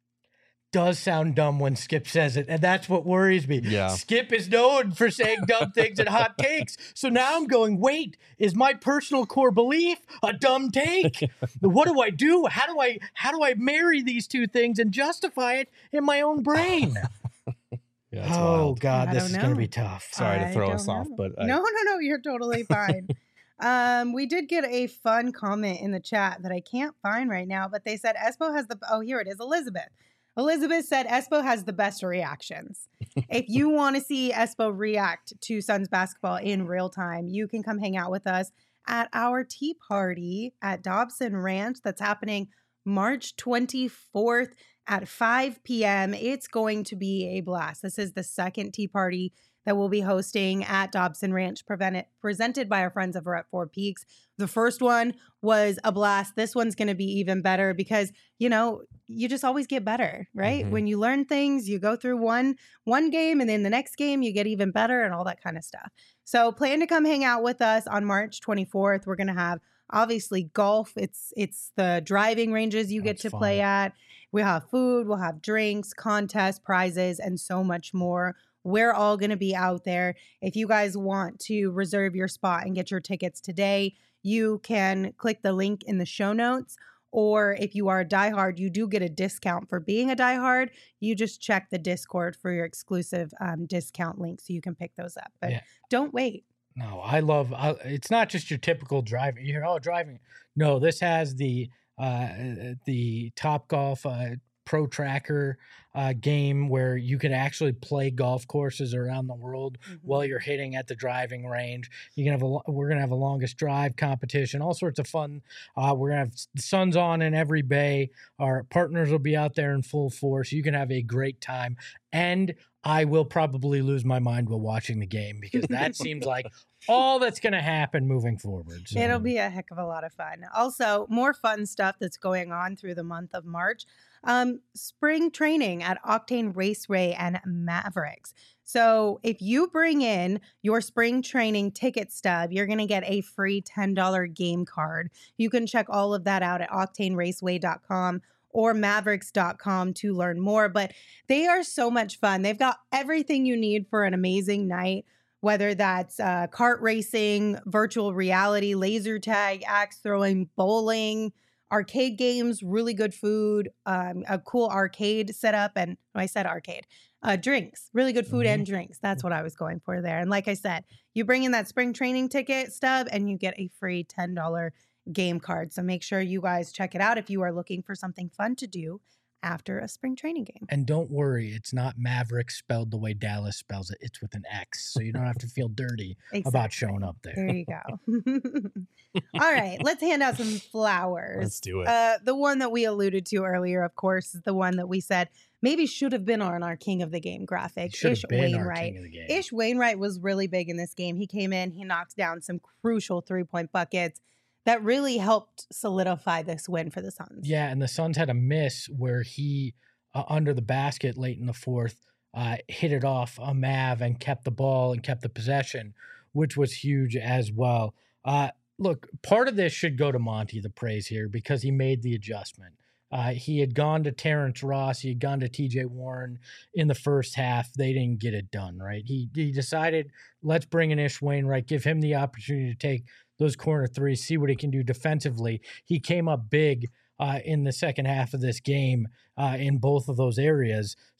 does sound dumb when Skip says it, and that's what worries me. Yeah. Skip is known for saying dumb things and hot takes. So now I'm going, wait, is my personal core belief a dumb take? What do I do? How do I how do I marry these two things and justify it in my own brain? Yeah, it's Oh wild. God, I this don't is gonna know. be tough. Sorry to I throw don't us off, know. but I, no, no, no, you're totally fine. um, we did get a fun comment in the chat that I can't find right now, but they said Espo has the oh, here it is, Elizabeth. Elizabeth said Espo has the best reactions. If you want to see Espo react to Suns basketball in real time, you can come hang out with us at our tea party at Dobson Ranch. That's happening March twenty-fourth at five p.m. It's going to be a blast. This is the second tea party that we'll be hosting at Dobson Ranch, prevented, presented by our friends over at Four Peaks. The first one was a blast. This one's going to be even better because, you know, you just always get better, right? Mhm. When you learn things, you go through one one game and then the next game you get even better and all that kind of stuff. So plan to come hang out with us on March twenty-fourth. We're going to have obviously golf. It's it's the driving ranges you That's get to fun. play at. We'll have food, we'll have drinks, contests, prizes, and so much more. We're all going to be out there. If you guys want to reserve your spot and get your tickets today, you can click the link in the show notes. Or if you are a diehard, you do get a discount for being a diehard. You just check the Discord for your exclusive um, discount link so you can pick those up. But Yeah. don't wait. No, I love. I, it's not just your typical driving. You hear, oh, driving. No, this has the uh, the Top Golf uh, Pro Tracker uh, game where you can actually play golf courses around the world while you're hitting at the driving range. You can have a. lo- We're gonna have a longest drive competition, all sorts of fun. Uh, we're gonna have s- the Suns on in every bay. Our partners will be out there in full force. You can have a great time, and I will probably lose my mind while watching the game because that seems like all that's going to happen moving forward. So. It'll be a heck of a lot of fun. Also, more fun stuff that's going on through the month of March. Um, spring training at Octane Raceway and Mavericks. So if you bring in your spring training ticket stub, you're going to get a free ten dollars game card. You can check all of that out at octane raceway dot com or mavericks dot com to learn more. But they are so much fun. They've got everything you need for an amazing night, whether that's uh, kart racing, virtual reality, laser tag, axe throwing, bowling, arcade games, really good food, um, a cool arcade setup. And oh, I said arcade, uh, drinks, really good food Mhm. and drinks. That's what I was going for there. And like I said, you bring in that spring training ticket stub and you get a free ten dollars game card. So make sure you guys check it out if you are looking for something fun to do after a spring training game. And don't worry, it's not Maverick spelled the way Dallas spells it. It's with an X. So you don't have to feel dirty about Exactly. showing up there. There you go. All right, let's hand out some flowers. Let's do it. Uh, the one that we alluded to earlier, of course, is the one that we said maybe should have been on our King of the Game graphic. Should Ish have been our Wainwright. king of the game. Ish Wainwright was really big in this game. He came in, he knocked down some crucial three point buckets that really helped solidify this win for the Suns. Yeah, and the Suns had a miss where he, uh, under the basket late in the fourth, uh, hit it off a Mav and kept the ball and kept the possession, which was huge as well. Uh, look, part of this should go to Monty, the praise here, because he made the adjustment. Uh, he had gone to Terrence Ross. He had gone to T J Warren in the first half. They didn't get it done, right? He, he decided, let's bring in Ish Wainwright, give him the opportunity to take those corner threes, see what he can do defensively. He came up big uh, in the second half of this game uh, in both of those areas. So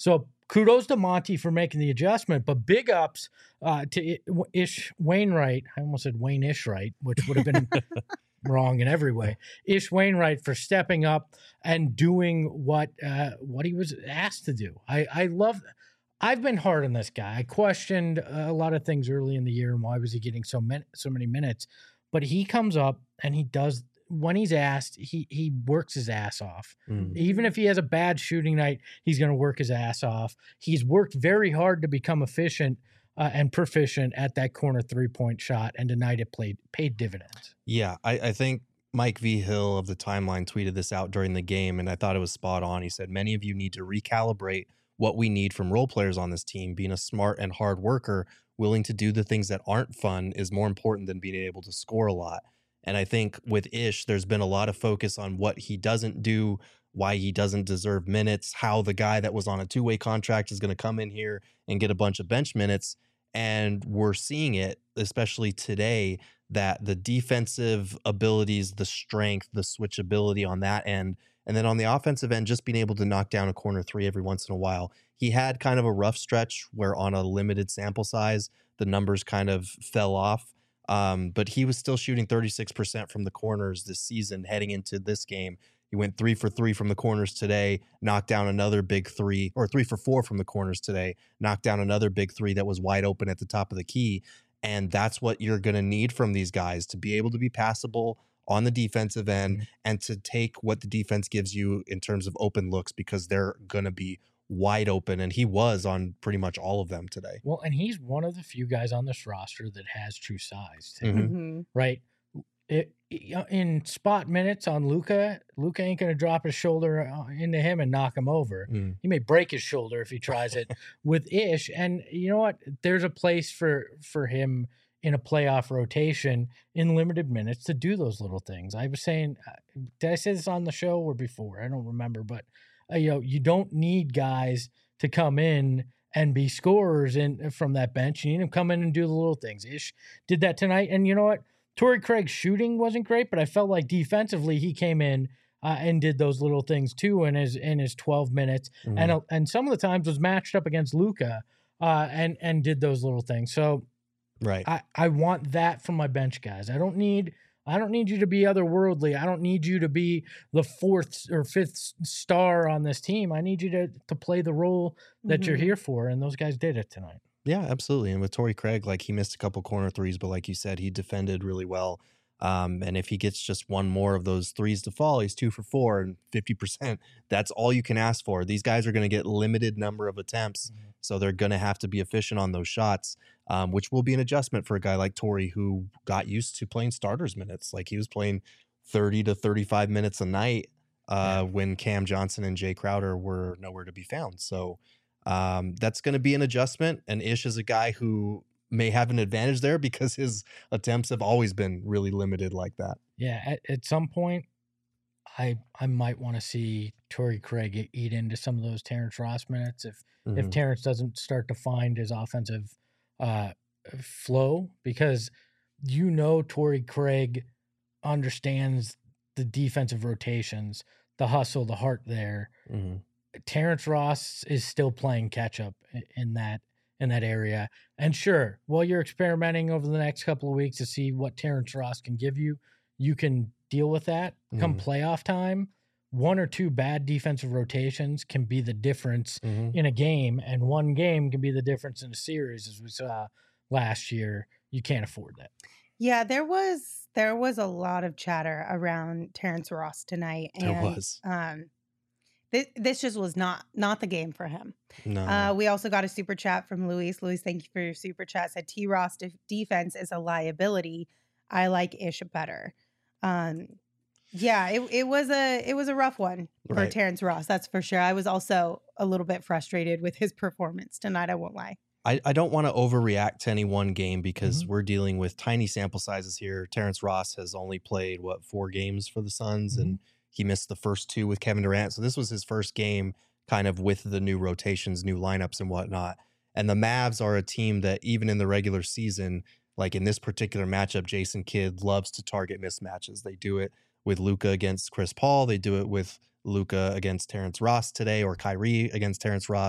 kudos to Monty for making the adjustment, but big ups uh, to Ish Wainwright. I almost said Wayne Ishright, which would have been wrong in every way. Ish Wainwright for stepping up and doing what uh, what he was asked to do. I, I love. I've been hard on this guy. I questioned a lot of things early in the year and why was he getting so many so many minutes, but he comes up and he does. When he's asked, he he works his ass off. Mm. Even if he has a bad shooting night, he's going to work his ass off. He's worked very hard to become efficient uh, and proficient at that corner three-point shot, and tonight it played paid dividends. Yeah, I, I think Mike V. Hill of the Timeline tweeted this out during the game, and I thought it was spot on. He said, many of you need to recalibrate what we need from role players on this team. Being a smart and hard worker, willing to do the things that aren't fun is more important than being able to score a lot. And I think with Ish, there's been a lot of focus on what he doesn't do, why he doesn't deserve minutes, how the guy that was on a two-way contract is going to come in here and get a bunch of bench minutes. And we're seeing it, especially today, that the defensive abilities, the strength, the switchability on that end, and then on the offensive end, just being able to knock down a corner three every once in a while. He had kind of a rough stretch where on a limited sample size, the numbers kind of fell off. Um, but he was still shooting thirty-six percent from the corners this season heading into this game. He went three for three from the corners today, knocked down another big three, or three for four from the corners today, knocked down another big three that was wide open at the top of the key. And that's what you're going to need from these guys, to be able to be passable on the defensive end mm-hmm. and to take what the defense gives you in terms of open looks, because they're going to be wide open, and he was on pretty much all of them today. Well, and he's one of the few guys on this roster that has true size, too, Mm-hmm. right? It, in spot minutes on Luka, Luka ain't going to drop his shoulder into him and knock him over. Mm. He may break his shoulder if he tries it with Ish. And you know what? There's a place for for him in a playoff rotation in limited minutes to do those little things. I was saying, did I say this on the show or before? I don't remember, but Uh, you know, you don't need guys to come in and be scorers in from that bench. You need them to come in and do the little things. Ish did that tonight. And you know what? Torrey Craig's shooting wasn't great, but I felt like defensively he came in uh, and did those little things too in his in his twelve minutes. Mm-hmm. And uh, and some of the times was matched up against Luka uh, and and did those little things. So right, I, I want that from my bench guys. I don't need I don't need you to be otherworldly. I don't need you to be the fourth or fifth star on this team. I need you to to play the role that mm-hmm. you're here for, and those guys did it tonight. Yeah, absolutely. And with Torrey Craig, like, he missed a couple corner threes, but like you said, he defended really well. Um, and if he gets just one more of those threes to fall, he's two for four and fifty percent. That's all you can ask for. These guys are going to get limited number of attempts, mm-hmm. so they're going to have to be efficient on those shots, um, which will be an adjustment for a guy like Torrey, who got used to playing starters minutes. Like, he was playing thirty to thirty-five minutes a night uh, yeah. when Cam Johnson and Jay Crowder were nowhere to be found. So um, that's going to be an adjustment. And Ish is a guy who may have an advantage there because his attempts have always been really limited like that. Yeah, at, at some point, I I might want to see Torrey Craig eat into some of those Terrence Ross minutes if mm-hmm. if Terrence doesn't start to find his offensive uh, flow, because you know Torrey Craig understands the defensive rotations, the hustle, the heart there. Mm-hmm. Terrence Ross is still playing catch up in that in that area. And sure, while you're experimenting over the next couple of weeks to see what Terrence Ross can give you, you can deal with that. Mm-hmm. Come playoff time, one or two bad defensive rotations can be the difference mm-hmm. in a game, and one game can be the difference in a series, as we saw last year. You can't afford that. Yeah, there was there was a lot of chatter around Terrence Ross tonight. And, there was. Um, This, this just was not not the game for him. No. Uh, we also got a super chat from Luis. Luis, thank you for your super chat. Said T. Ross de- defense is a liability. I like Ish better. Um, yeah, it it was a it was a rough one for right. Terrence Ross. That's for sure. I was also a little bit frustrated with his performance tonight. I won't lie. I, I don't want to overreact to any one game because mm-hmm. we're dealing with tiny sample sizes here. Terrence Ross has only played what four games for the Suns, mm-hmm. and he missed the first two with Kevin Durant. So this was his first game kind of with the new rotations, new lineups and whatnot. And the Mavs are a team that even in the regular season, like in this particular matchup, Jason Kidd loves to target mismatches. They do it with Luka against Chris Paul. They do it with Luka against Terrence Ross today, or Kyrie against Terrence Ross.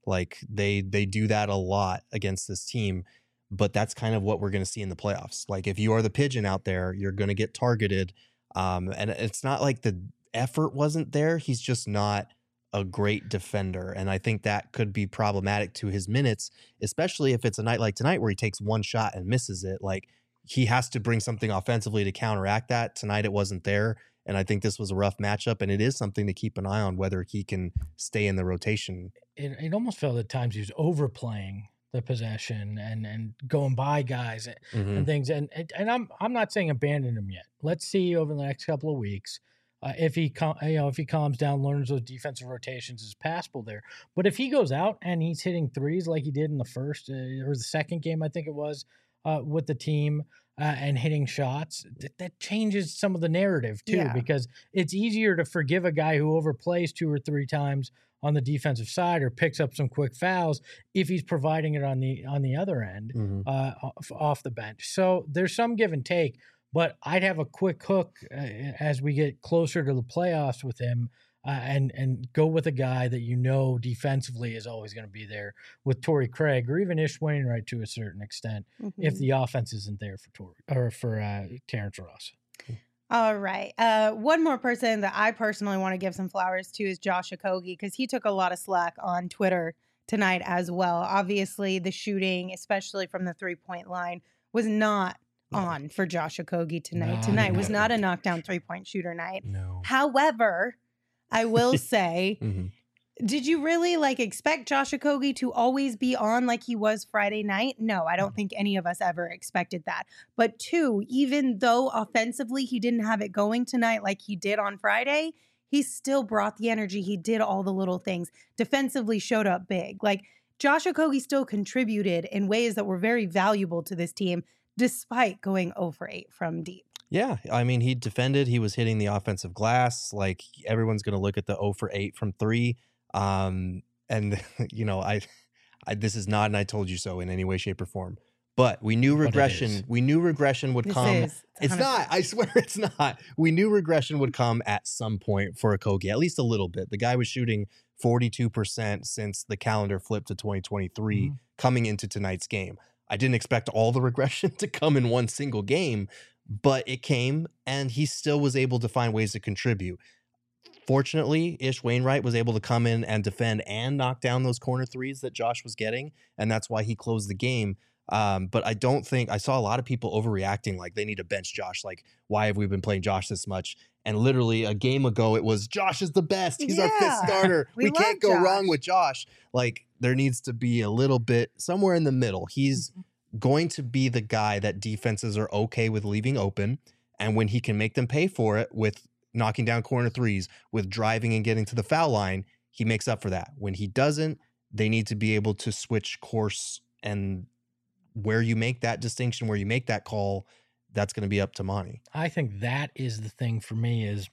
Like they they do that a lot against this team, but that's kind of what we're going to see in the playoffs. Like if you are the pigeon out there, you're going to get targeted. Um, and it's not like the effort wasn't there. He's just not a great defender. And I think that could be problematic to his minutes, especially if it's a night like tonight where he takes one shot and misses it. Like he has to bring something offensively to counteract that. Tonight it wasn't there. And I think this was a rough matchup, and it is something to keep an eye on whether he can stay in the rotation. It, it almost felt at times he was overplaying the possession and and going by guys and, Mm-hmm. and things. And and I'm I'm not saying abandon him yet. Let's see over the next couple of weeks. Uh, if he com- you know if he calms down, learns those defensive rotations is passable there. But if he goes out and he's hitting threes like he did in the first uh, or the second game, I think it was uh, with the team uh, and hitting shots, th- that changes some of the narrative too, Yeah. because it's easier to forgive a guy who overplays two or three times on the defensive side or picks up some quick fouls if he's providing it on the on the other end Mm-hmm. uh, off, off the bench. So there's some give and take. But I'd have a quick hook uh, as we get closer to the playoffs with him, uh, and and go with a guy that you know defensively is always going to be there with Torrey Craig or even Ish Wainwright to a certain extent Mm-hmm. if the offense isn't there for Torrey or for uh, Terrence Ross. All right. Uh, one more person that I personally want to give some flowers to is Josh Okogie, because he took a lot of slack on Twitter tonight as well. Obviously, the shooting, especially from the three-point line, was not on for Josh Okogie tonight. No, tonight was no. not a knockdown three-point shooter night. No. However, I will say, Mm-hmm. did you really like expect Josh Okogie to always be on like he was Friday night? No, I don't think any of us ever expected that. But two, even though offensively he didn't have it going tonight like he did on Friday, he still brought the energy. He did all the little things. Defensively showed up big. Like Josh Okogie still contributed in ways that were very valuable to this team, despite going zero for eight from deep. Yeah, I mean, he defended. He was hitting the offensive glass. Like everyone's going to look at the zero for eight from three. Um, and you know, I, I, this is not an "I told you so" in any way, shape, or form. But we knew But it regression. is. We knew regression would This come. is It's one hundred percent. not. I swear, it's not. We knew regression would come at some point for Okogie, at least a little bit. The guy was shooting forty-two percent since the calendar flipped to twenty twenty-three, Mhm. coming into tonight's game. I didn't expect all the regression to come in one single game, but it came, and he still was able to find ways to contribute. Fortunately, Ish Wainwright was able to come in and defend and knock down those corner threes that Josh was getting, and that's why he closed the game. Um, but I don't think I saw a lot of people overreacting like they need to bench Josh. Like, why have we been playing Josh this much? And literally a game ago, it was Josh is the best. He's our fifth Yeah. starter. We We, can't love go wrong Josh. with Josh. Like, there needs to be a little bit somewhere in the middle. He's going to be the guy that defenses are okay with leaving open. And when he can make them pay for it with knocking down corner threes, with driving and getting to the foul line, he makes up for that. When he doesn't, they need to be able to switch course, and where you make that distinction, where you make that call, that's going to be up to Monty. I think that is the thing for me is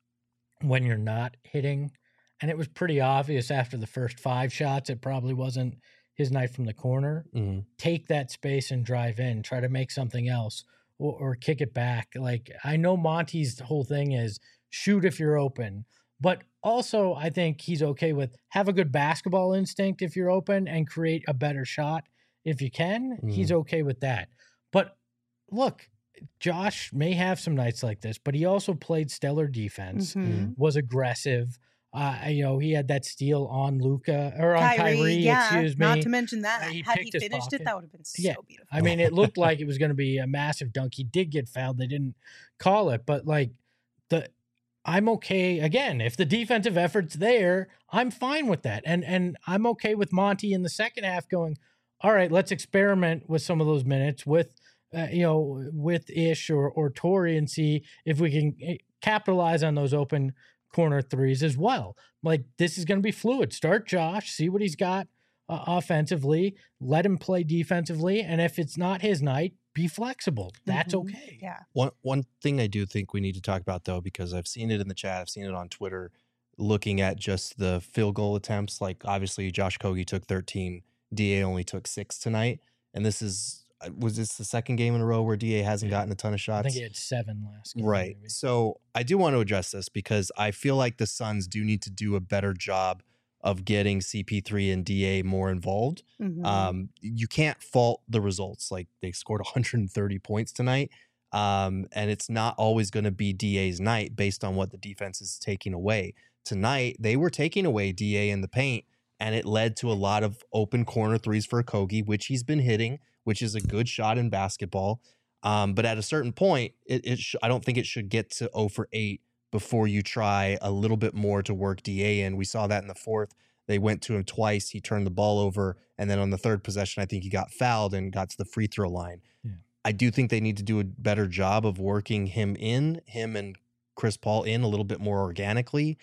when you're not hitting, and it was pretty obvious after the first five shots, it probably wasn't his night from the corner. Mm-hmm. Take that space and drive in, try to make something else or, or kick it back. Like I know Monty's whole thing is shoot if you're open, but also I think he's okay with have a good basketball instinct if you're open and create a better shot. If you can, Mm-hmm. he's okay with that. But look, Josh may have some nights like this, but he also played stellar defense, Mhm. was aggressive. Uh, you know, he had that steal on Luka or on Kyrie, Kyrie, yeah, excuse me. not to mention that. Uh, he Had he picked his finished pocket. it, that would have been so Yeah. beautiful. I mean, it looked like it was going to be a massive dunk. He did get fouled. They didn't call it, but like the I'm okay again. If the defensive effort's there, I'm fine with that. And and I'm okay with Monty in the second half going, all right, let's experiment with some of those minutes with uh, you know, with Ish or or Torrey and see if we can eh, capitalize on those open corner threes as well. Like this is going to be fluid. Start Josh, see what he's got uh, offensively, let him play defensively, and if it's not his night, be flexible. That's Mhm. okay. Yeah. One one thing I do think we need to talk about, though, because I've seen it in the chat, I've seen it on Twitter, looking at just the field goal attempts. Like, obviously, Josh Okogie took thirteen, D A only took six tonight, and this is uh, was this the second game in a row where D A hasn't Yeah. gotten a ton of I shots? think he had seven last game. Right. maybe. So I do want to address this because I feel like the Suns do need to do a better job of getting C P three and D A more involved. Mhm. Um, you can't fault the results. Like they scored one hundred thirty points tonight. Um, and it's not always going to be D A's night based on what the defense is taking away. Tonight, they were taking away D A in the paint, and it led to a lot of open corner threes for Kogi, which he's been hitting, which is a good shot in basketball. Um, but at a certain point, it, it sh- I don't think it should get to zero for eight before you try a little bit more to work D A in. We saw that in the fourth. They went to him twice. He turned the ball over. And then on the third possession, I think he got fouled and got to the free throw line. Yeah. I do think they need to do a better job of working him in, him and Chris Paul in a little bit more organically.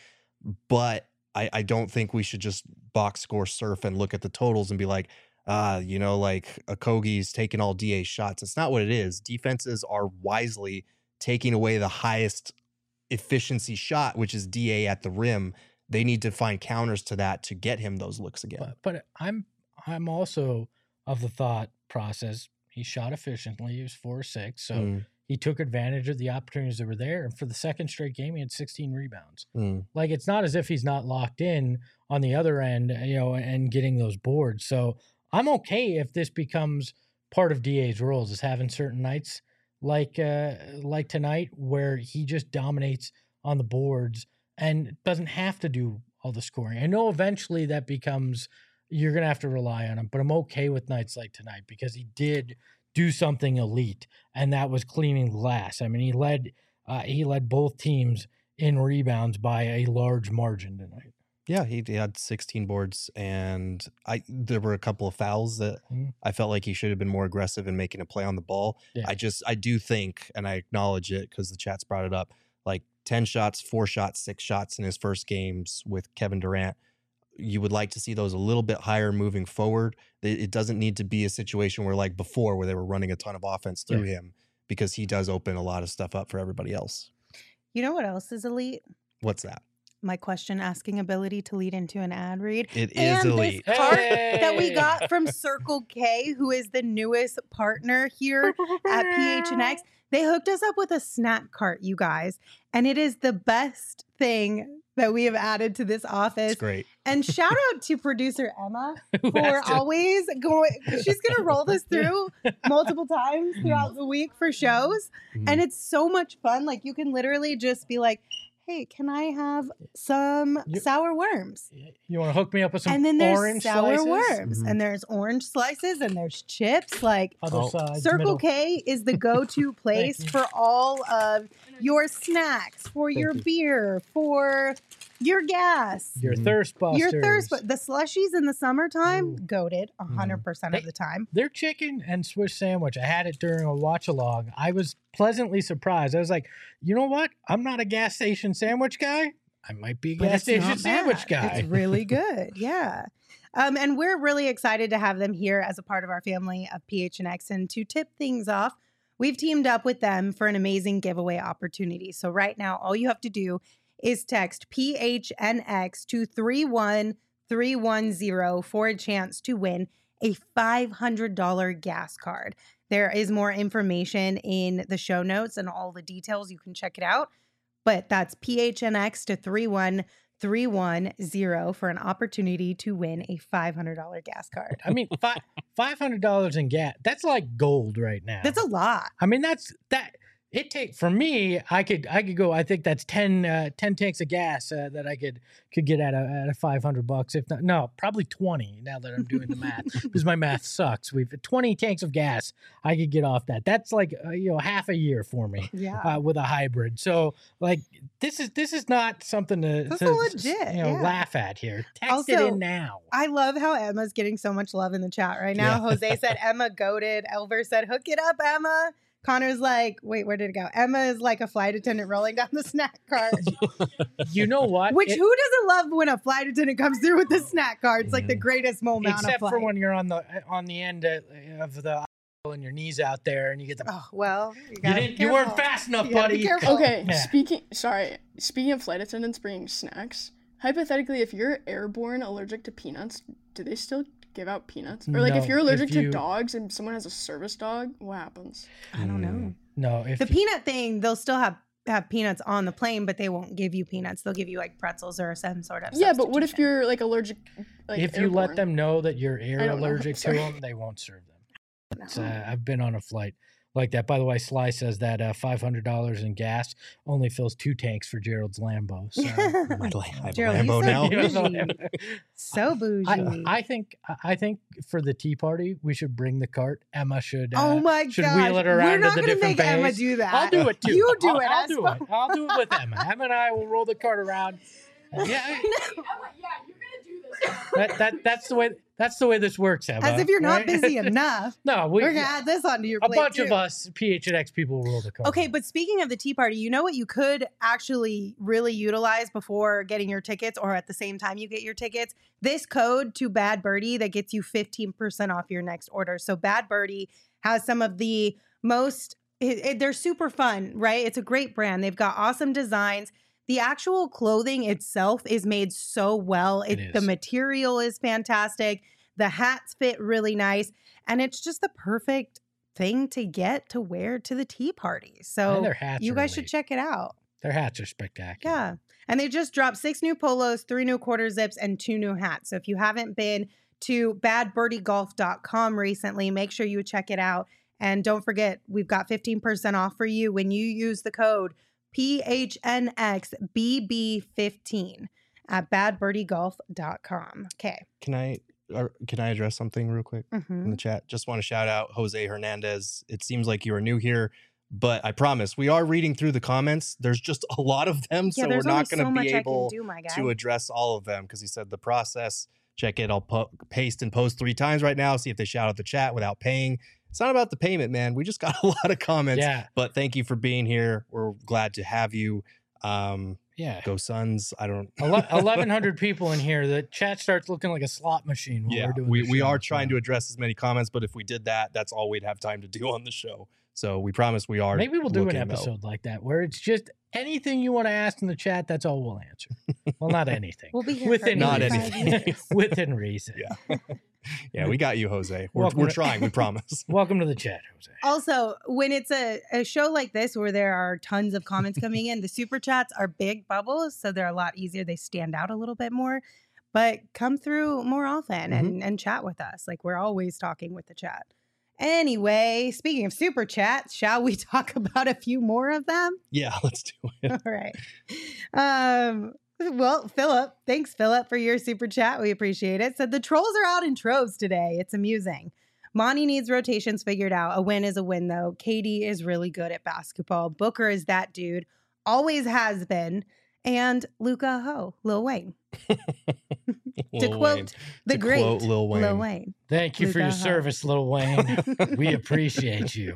But I, I don't think we should just box score surf and look at the totals and be like, ah, you know, like Okogie's taking all D A shots. It's not what it is. Defenses are wisely taking away the highest efficiency shot, which is D A at the rim. They need to find counters to that to get him those looks again. But, but I'm I'm also of the thought process. He shot efficiently. He was four or six, so Mm, he took advantage of the opportunities that were there. And for the second straight game, he had sixteen rebounds. mm. Like it's not as if he's not locked in on the other end, you know, and getting those boards. So I'm okay if this becomes part of D A's roles, is having certain nights like uh, like tonight where he just dominates on the boards and doesn't have to do all the scoring. I know eventually that becomes you're gonna have to rely on him, but I'm okay with nights like tonight because he did do something elite, and that was cleaning glass. I mean, he led uh, he led both teams in rebounds by a large margin tonight. Yeah, he, he had sixteen boards, and I there were a couple of fouls that Mhm. I felt like he should have been more aggressive in making a play on the ball. Yeah. I just I do think, and I acknowledge it because the chat's brought it up, like ten shots, four shots, six shots in his first games with Kevin Durant. You would like to see those a little bit higher moving forward. It, it doesn't need to be a situation where like before where they were running a ton of offense through Yeah. him, because he does open a lot of stuff up for everybody else. You know what else is elite? What's that? My question asking ability to lead into an ad read. It is And elite. this cart that we Hey! got from Circle K, who is the newest partner here at P H N X. They hooked us up with a snack cart, you guys. And it is the best thing that we have added to this office. It's great. And shout out to producer Emma Who for has to- always going. She's going to roll this through multiple times throughout the week for shows. And it's so much fun. Like you can literally just be like, hey, can I have some You- sour worms? You want to hook me up with some And then there's orange sour slices? worms, Mhm. and there's orange slices, and there's chips. Like Other Oh. side, Circle middle. K is the go-to place you. for all of your snacks, for your you. beer, for your gas, Your Mhm. thirst busters. your thirst. But the slushies in the summertime, Ooh. goated a hundred percent of They- the time. Their chicken and Swiss sandwich, I had it during a watch along. I was pleasantly surprised. I was like, you know what? I'm not a gas station sandwich guy. I might be a But gas it's station not sandwich bad. guy. It's really good. Yeah. Um, and we're really excited to have them here as a part of our family of P H N X. And to tip things off, we've teamed up with them for an amazing giveaway opportunity. So right now, all you have to do is text P H N X to three one three one zero for a chance to win a five hundred dollars gas card. There is more information in the show notes and all the details. You can check it out. But that's P H N X to three one three one zero for an opportunity to win a five hundred dollars gas card. I mean, five five hundred dollars in gas. That's like gold right now. That's a lot. I mean, that's that. It take for me. I could I could go. I think that's ten, uh, ten tanks of gas uh, that I could could get at a at a five hundred bucks. If not, no, probably twenty. Now that I'm doing the math, because my math sucks. We've twenty tanks of gas. I could get off that. That's like uh, you know half a year for me. Yeah. Uh, with a hybrid, so like this is this is not something to, That's to legit, you know yeah. laugh at here. Text it Also, in now. I love how Emma's getting so much love in the chat right now. Yeah. Jose said Emma goated. Elver said, hook it up, Emma. Connor's like, wait, where did it go? Emma is like a flight attendant rolling down the snack cart. You know what? Which It- who doesn't love when a flight attendant comes through with the snack cart? It's like the greatest moment on a except flight. for when you're on the on the end of, of the aisle and your knees out there and you get the. Oh, well, you, you gotta be didn't. You weren't careful. fast enough, You gotta be buddy. careful. Okay, Yeah. speaking sorry, speaking of flight attendants bringing snacks, hypothetically, if you're airborne allergic to peanuts, do they still give out peanuts? Or like No, if you're if allergic you- to dogs and someone has a service dog, what happens? I don't know. No, if The peanut thing, they'll still have have peanuts on the plane, but they won't give you peanuts. They'll give you like pretzels or some sort of Yeah, but what if substitution. you're like allergic? Like, if you let airborne? them know that you're air I don't know. allergic to Sorry. them, they won't serve them. It's, uh, I've been on a flight like that. By the way, Sly says that uh, five hundred dollars in gas only fills two tanks for Gerald's Lambo. So. I have a Gerald, he's Lambo so now. bougie. So bougie. I, I think I think for the tea party we should bring the cart. Emma should. Uh, oh my should gosh. wheel it around We're to not the gonna different make Emma bays. do that. I'll do it too. You do I'll, it. I'll as do well. it. I'll do it with Emma. Emma and I will roll the cart around. Yeah, yeah, you're gonna do this. that, that that's the way that's the way this works, Emma. As if you're not right? busy enough. No, we, We're gonna add this onto your a plate bunch too. of us P H N X people will roll the cart. Okay, but speaking of the tea party, you know what you could actually really utilize before getting your tickets or at the same time you get your tickets? This code to Bad Birdie that gets you fifteen percent off your next order. So Bad Birdie has some of the most, it, it, they're super fun, right? It's a great brand. They've got awesome designs. The actual clothing itself is made so well. It, It the is. material is fantastic. The hats fit really nice. And it's just the perfect thing to get to wear to the tea party. So And their hats you are guys should elite. check it out. Their hats are spectacular. Yeah. And they just dropped six new polos, three new quarter zips, and two new hats. So if you haven't been to bad birdie golf dot com recently, make sure you check it out. And don't forget, we've got fifteen percent off for you when you use the code P H N X B B fifteen at bad birdie golf dot com. Okay. Can I or can I address something real quick in Mm-hmm. the chat? Just want to shout out Jose Hernandez. It seems like you are new here, but I promise we are reading through the comments. There's just a lot of them, Yeah, so we're there's not only going so to be much able I can do, my guy. to address all of them because he said the process. Check it. I'll po- paste and post three times right now. See if they shout out the chat without paying. It's not about the payment, man. We just got a lot of comments. Yeah. But thank you for being here. We're glad to have you. Um, Yeah. go Suns. I don't. eleven hundred people in here. The chat starts looking like a slot machine while Yeah, we're doing we, the we show, are so. trying to address as many comments, but if we did that, that's all we'd have time to do on the show. So we promise we are. Maybe we'll do an looking out. episode like that where it's just anything you want to ask in the chat. That's all we'll answer. Well, not anything. We'll be here Within for Not reason. eighty-five anything. years. Within reason. Yeah. Yeah, we got you, Jose. We're, Welcome we're to- trying. We promise. Welcome to the chat, Jose. Also, when it's a, a show like this where there are tons of comments coming in, the super chats are big bubbles, so they're a lot easier. They stand out a little bit more, but come through more often and, and chat with us. Like we're always talking with the chat. Anyway, speaking of super chats, shall we talk about a few more of them? Yeah, let's do it. All right. Um, well, Philip, thanks, Philip, for your super chat. We appreciate it. Said the trolls are out in troves today. It's amusing. Monty needs rotations figured out. A win is a win, though. K D is really good at basketball. Booker is that dude. Always has been. And Luka Ho, Lil Wayne. to Lil quote Wayne. the To great quote Lil Wayne. Lil Wayne. Thank you for your Luka Ho. service, Lil Wayne. We appreciate you.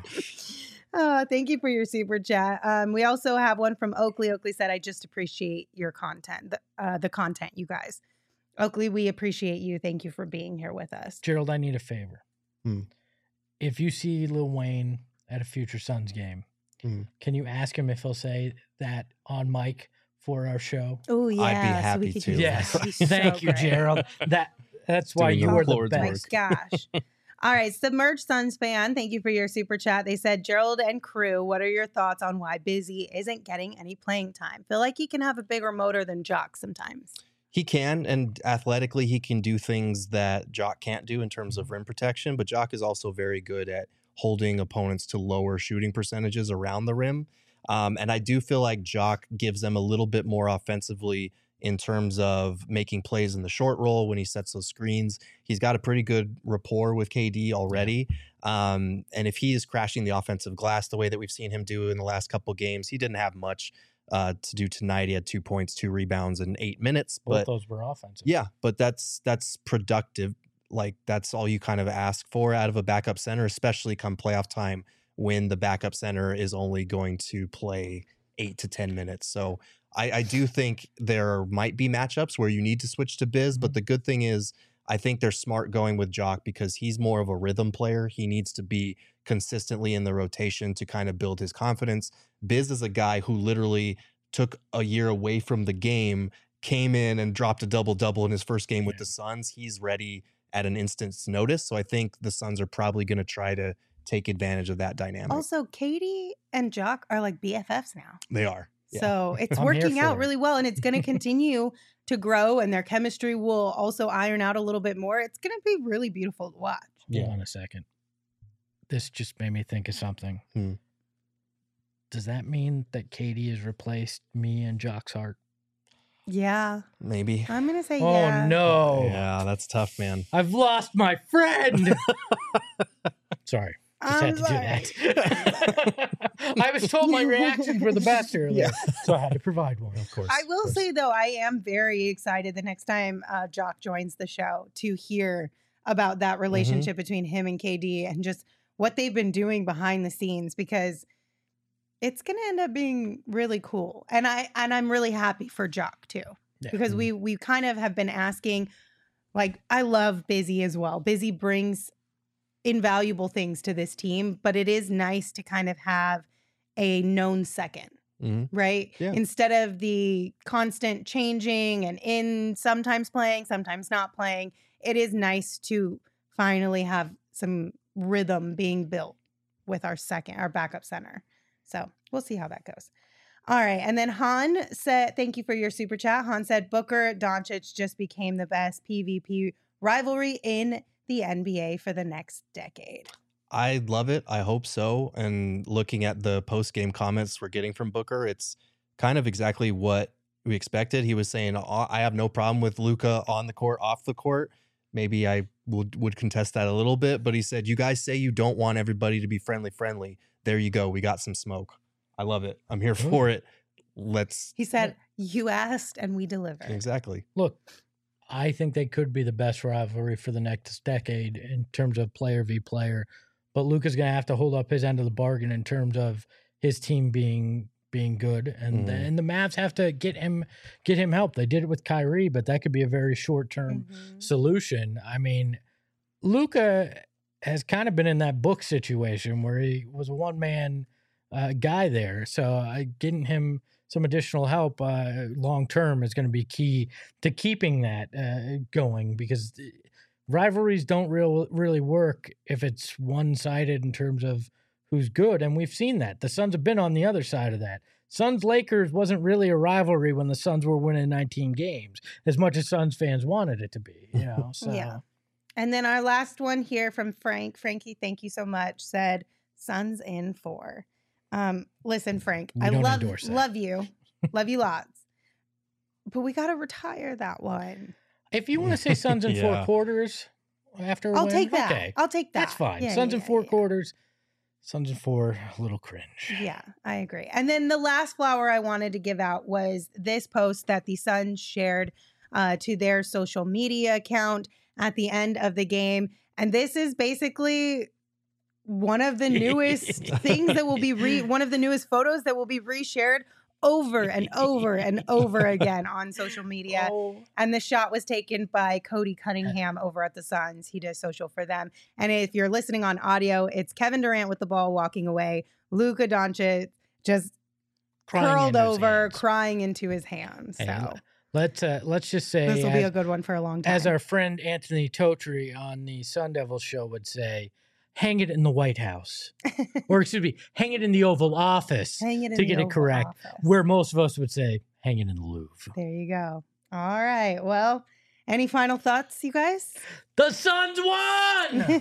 Oh, thank you for your super chat. Um, we also have one from Oakley. Oakley said, I just appreciate your content, the, uh, the content, you guys. Oakley, we appreciate you. Thank you for being here with us. Gerald, I need a favor. Hmm. If you see Lil Wayne at a future Suns game, Hmm. can you ask him if he'll say that on mic for our show? Oh, yeah. I'd be so happy we could to. do that. Yes. That'd be so Thank you, great. Gerald. That That's why Doing you the are the Lord's best. My gosh. All right. Submerged Suns fan, thank you for your super chat. They said, Gerald and crew, what are your thoughts on why Busy isn't getting any playing time? Feel like he can have a bigger motor than Jock sometimes. He can, and athletically, he can do things that Jock can't do in terms of rim protection. But Jock is also very good at holding opponents to lower shooting percentages around the rim. Um, and I do feel like Jock gives them a little bit more offensively in terms of making plays in the short roll when he sets those screens. He's got a pretty good rapport with K D already. Um, and if he is crashing the offensive glass the way that we've seen him do in the last couple games, he didn't have much uh, to do tonight. He had two points, two rebounds in eight minutes. Both But those were offensive. yeah, but that's that's productive. Like that's all you kind of ask for out of a backup center, especially come playoff time when the backup center is only going to play eight to ten minutes. So I, I do think there might be matchups where you need to switch to Biz, but the good thing is I think they're smart going with Jock because he's more of a rhythm player. He needs to be consistently in the rotation to kind of build his confidence. Biz is a guy who literally took a year away from the game, came in and dropped a double-double in his first game with Yeah. the Suns. He's ready at an instant's notice. So I think the Suns are probably going to try to take advantage of that dynamic. Also, Katie and Jock are like B F Fs now. They are. Yeah. So it's I'm here working out for it. really well, and it's going to continue to grow, and their chemistry will also iron out a little bit more. It's going to be really beautiful to watch. Hold on a second. This just made me think of something. Hmm. Does that mean that Katie has replaced me and Jock's heart? Yeah, Maybe. I'm going to say Oh, yeah. no. Yeah, that's tough, man. I've lost my friend. Sorry. Just I'm had to sorry. do that. I was told my reactions were the best earlier, so I had to provide one, of course. I of will course. say, though, I am very excited the next time uh, Jock joins the show to hear about that relationship between him and K D and just what they've been doing behind the scenes, because it's going to end up being really cool. And, I, and I'm really happy for Jock, too, Yeah. because we, we kind of have been asking, like, I love Busy as well. Busy brings invaluable things to this team, but it is nice to kind of have a known second. Mhm. Right? Yeah. Instead of the constant changing and in sometimes playing, sometimes not playing, it is nice to finally have some rhythm being built with our second, our backup center. So we'll see how that goes. All right. And then Han said, thank you for your super chat. Han said, Booker Doncic just became the best P V P rivalry in the N B A for the next decade. I love it. I hope so. And looking at the post-game comments we're getting from Booker, it's kind of exactly what we expected. He was saying, "Oh, I have no problem with Luka on the court, off the court." Maybe I would, would contest that a little bit, but he said, you guys say you don't want everybody to be friendly, friendly. There you go. We got some smoke. I love it. I'm here for it. Let's. He said, you asked and we delivered. Exactly. Look, I think they could be the best rivalry for the next decade in terms of player v player, but Luka's going to have to hold up his end of the bargain in terms of his team being being good, and Mhm. the, and the Mavs have to get him get him help. They did it with Kyrie, but that could be a very short term Mhm. solution. I mean, Luka has kind of been in that book situation where he was a one man uh, guy there, so uh, getting him some additional help uh, long term is going to be key to keeping that uh, going, because rivalries don't real really work if it's one sided in terms of who's good, and we've seen that. The Suns have been on the other side of that. Suns Lakers wasn't really a rivalry when the Suns were winning nineteen games, as much as Suns fans wanted it to be. You know, so Yeah. And then our last one here from Frank. Frankie, thank you so much. Said Suns in four. Um, listen, Frank, We I don't love endorse that. love you, love you lots, but we got to retire that one. if you want to say Suns in four Yeah. quarters after a I'll win, take that. okay, I'll take that. that's fine. Yeah, Suns yeah, in four yeah. quarters, Suns in four, a little cringe. Yeah, I agree. And then the last flower I wanted to give out was this post that the Suns shared uh, to their social media account at the end of the game. And this is basically one of the newest things that will be re one of the newest photos that will be reshared over and over and over again on social media. Oh, And the shot was taken by Cody Cunningham over at the Suns. He does social for them. And if you're listening on audio, it's Kevin Durant with the ball walking away. Luka Doncic just crying curled into his over, hands. crying into his hands. Hey, So Let's uh, let's just say, this will be as, a good one for a long time. as our friend Anthony Totri on the Sun Devil show would say, hang it in the White House, or excuse me, hang it in the Oval Office, Hang it in to the get it Oval correct. Office. Where most of us would say, hang it in the Louvre. There you go. All right. Well, any final thoughts, you guys? The Suns won.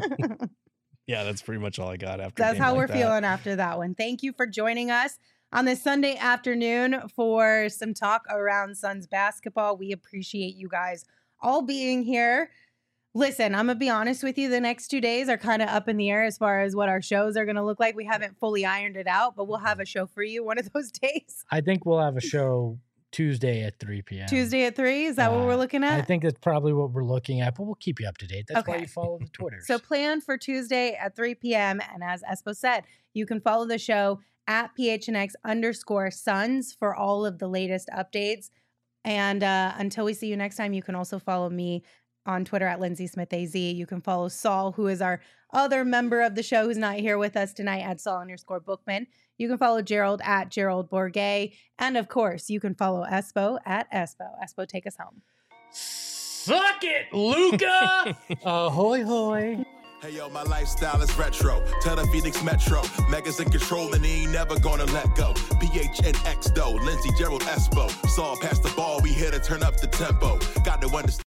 Yeah, that's pretty much all I got after. a That's game how like we're that. feeling after that one. Thank you for joining us on this Sunday afternoon for some talk around Suns basketball. We appreciate you guys all being here. Listen, I'm going to be honest with you. The next two days are kind of up in the air as far as what our shows are going to look like. We haven't fully ironed it out, but we'll have a show for you one of those days. I think we'll have a show Tuesday at three p.m. Tuesday at three. Is that what Uh, we're looking at? I think that's probably what we're looking at, but we'll keep you up to date. That's why Okay. you follow the Twitter. So plan for Tuesday at three p.m. And as Espo said, you can follow the show at P H N X underscore Suns for all of the latest updates. And uh, until we see you next time, you can also follow me on Twitter at Lindsay Smith A Z. You can follow Saul, who is our other member of the show who's not here with us tonight, at Saul underscore Bookman. You can follow Gerald at Gerald Bourget. And of course, you can follow Espo at Espo. Espo, take us home. Suck it, Luca! Ahoy, hoy. Hey yo, my lifestyle is retro. Tell the Phoenix Metro. Megas in control and he ain't never gonna let go. P H N X though, Lindsey Gerald Espo. Saw past the ball, we here to turn up the tempo. Got to understand.